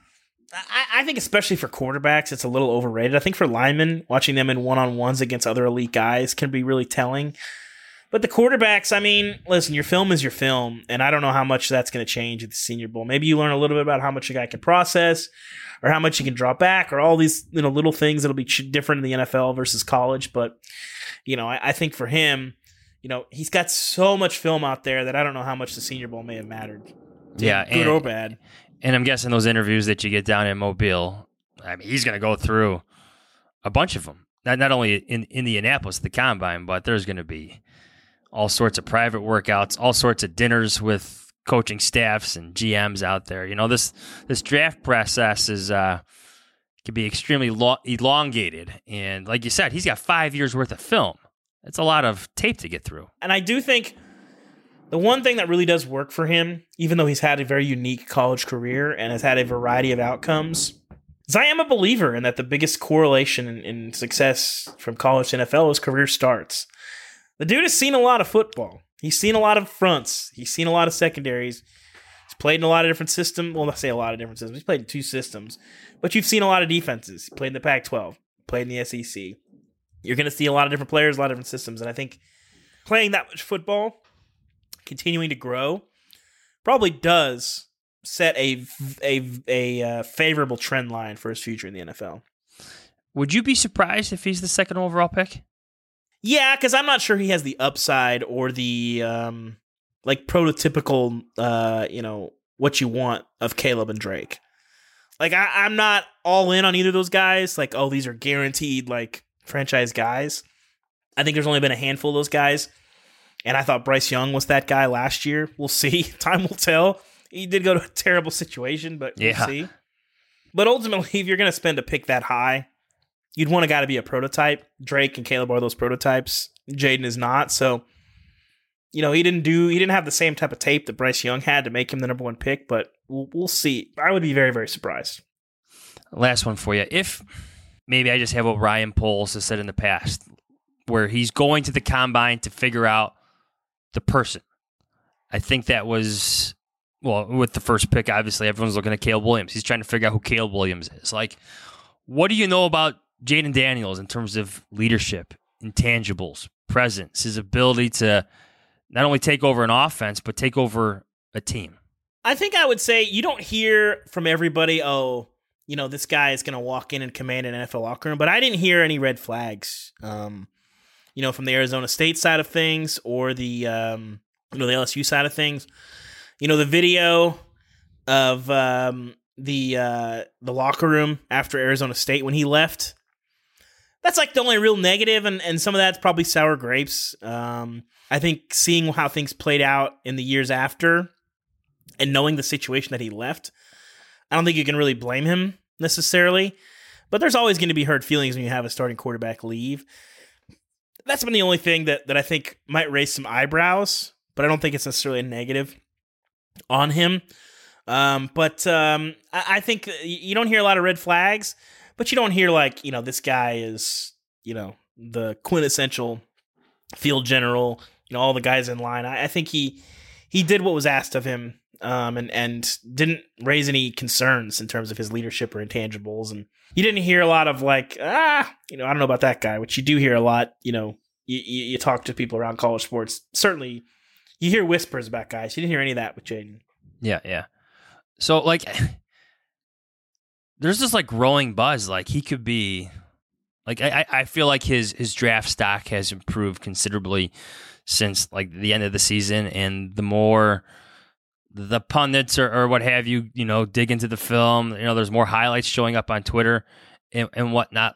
I think especially for quarterbacks, it's a little overrated. I think for linemen, watching them in one-on-ones against other elite guys can be really telling. But the quarterbacks, listen, your film is your film, and I don't know how much that's going to change at the Senior Bowl. Maybe you learn a little bit about how much a guy can process or how much he can drop back or all these little things that'll be different in the NFL versus college. But, I think for him, he's got so much film out there that I don't know how much the Senior Bowl may have mattered. Yeah, good or bad. And I'm guessing those interviews that you get down in Mobile, he's going to go through a bunch of them. Not only in Indianapolis, the Combine, but there's going to be all sorts of private workouts, all sorts of dinners with coaching staffs and GMs out there. This draft process can be extremely elongated. And like you said, he's got 5 years worth of film. It's a lot of tape to get through. And I do think the one thing that really does work for him, even though he's had a very unique college career and has had a variety of outcomes, is I am a believer in that the biggest correlation in success from college to NFL is career starts. The dude has seen a lot of football. He's seen a lot of fronts. He's seen a lot of secondaries. He's played in a lot of different systems. Well, I say a lot of different systems. He's played in 2 systems. But you've seen a lot of defenses. He played in the Pac-12. Played in the SEC. You're going to see a lot of different players, a lot of different systems. And I think playing that much football, continuing to grow, probably does set a favorable trend line for his future in the NFL. Would you be surprised if he's the 2nd overall pick? Yeah, because I'm not sure he has the upside or the prototypical, what you want of Caleb and Drake. Like, I'm not all in on either of those guys. Like, oh, these are guaranteed, franchise guys. I think there's only been a handful of those guys. And I thought Bryce Young was that guy last year. We'll see. Time will tell. He did go to a terrible situation, but we'll see. But ultimately, if you're going to spend a pick that high, you'd want a guy to be a prototype. Drake and Caleb are those prototypes. Jaden is not. So, he didn't have the same type of tape that Bryce Young had to make him the number 1 pick, but we'll see. I would be very, very surprised. Last one for you. If maybe I just have what Ryan Poles has said in the past, where he's going to the Combine to figure out the person. I think that was, with the first pick, obviously, everyone's looking at Caleb Williams. He's trying to figure out who Caleb Williams is. What do you know about Jaden Daniels in terms of leadership, intangibles, presence, his ability to not only take over an offense, but take over a team? I think I would say you don't hear from everybody, oh, this guy is going to walk in and command an NFL locker room. But I didn't hear any red flags, from the Arizona State side of things or the LSU side of things. The video of the locker room after Arizona State when he left, that's like the only real negative, and some of that's probably sour grapes. I think seeing how things played out in the years after and knowing the situation that he left, I don't think you can really blame him necessarily, but there's always going to be hurt feelings when you have a starting quarterback leave. That's been the only thing that I think might raise some eyebrows, but I don't think it's necessarily a negative on him. I think you don't hear a lot of red flags, but you don't hear this guy is, the quintessential field general, all the guys in line. I think he did what was asked of him, and didn't raise any concerns in terms of his leadership or intangibles. And you didn't hear a lot of I don't know about that guy, which you do hear a lot. You talk to people around college sports. Certainly, you hear whispers about guys. You didn't hear any of that with Jayden. Yeah. So there's this growing buzz. He could be I feel like his draft stock has improved considerably since the end of the season, and the more the pundits or what have you, dig into the film, there's more highlights showing up on Twitter and whatnot.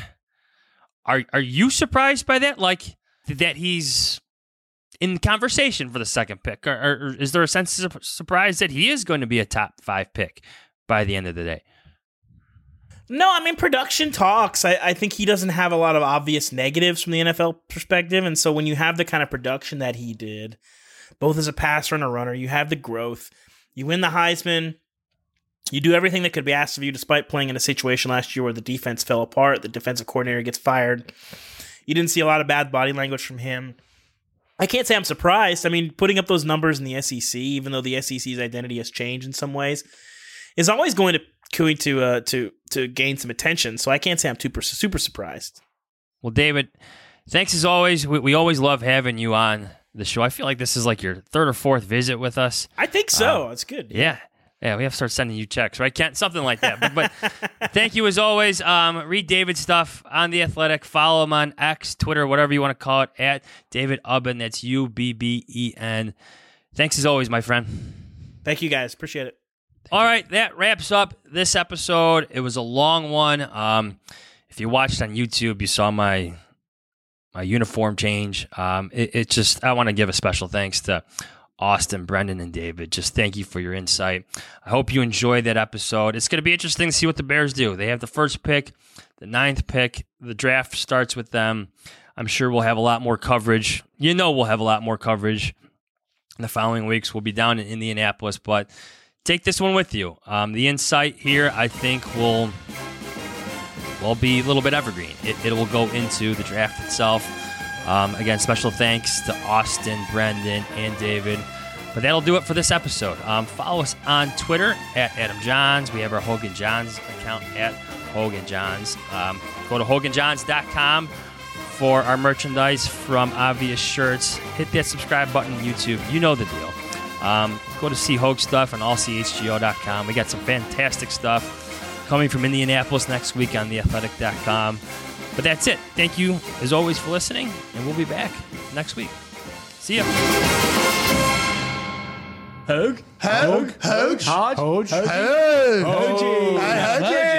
Are you surprised by that? That he's in conversation for the second pick, or is there a sense of surprise that he is going to be a top 5 pick by the end of the day? No, production talks. I think he doesn't have a lot of obvious negatives from the NFL perspective, and so when you have the kind of production that he did, both as a passer and a runner, you have the growth, you win the Heisman, you do everything that could be asked of you despite playing in a situation last year where the defense fell apart, the defensive coordinator gets fired. You didn't see a lot of bad body language from him. I can't say I'm surprised. Putting up those numbers in the SEC, even though the SEC's identity has changed in some ways, is always going to gain some attention. So I can't say I'm super surprised. Well, David, thanks as always. We always love having you on the show. I feel like this is your 3rd or 4th visit with us. I think so. It's good. Yeah, we have to start sending you checks, right? Something like that. But thank you as always. Read David's stuff on The Athletic. Follow him on X, Twitter, whatever you want to call it, at David Ubben. That's UBBEN. Thanks as always, my friend. Thank you, guys. Appreciate it. All right, that wraps up this episode. It was a long one. If you watched on YouTube, you saw my uniform change. I want to give a special thanks to Austin, Brendan, and David. Just thank you for your insight. I hope you enjoyed that episode. It's going to be interesting to see what the Bears do. They have the 1st pick, the 9th pick. The draft starts with them. I'm sure we'll have a lot more coverage. We'll have a lot more coverage in the following weeks. We'll be down in Indianapolis, but take this one with you. The insight here, I think, will be a little bit evergreen. It will go into the draft itself. Again, special thanks to Austin, Brendan, and David. But that'll do it for this episode. Follow us on Twitter at Adam Johns. We have our Hogan Johns account at Hogan Johns. Go to HoganJohns.com for our merchandise from Obvious Shirts. Hit that subscribe button on YouTube. You know the deal. Go to see Hogue stuff on allchgo.com. We got some fantastic stuff coming from Indianapolis next week on theathletic.com. But that's it. Thank you, as always, for listening, and we'll be back next week. See ya. Hogue.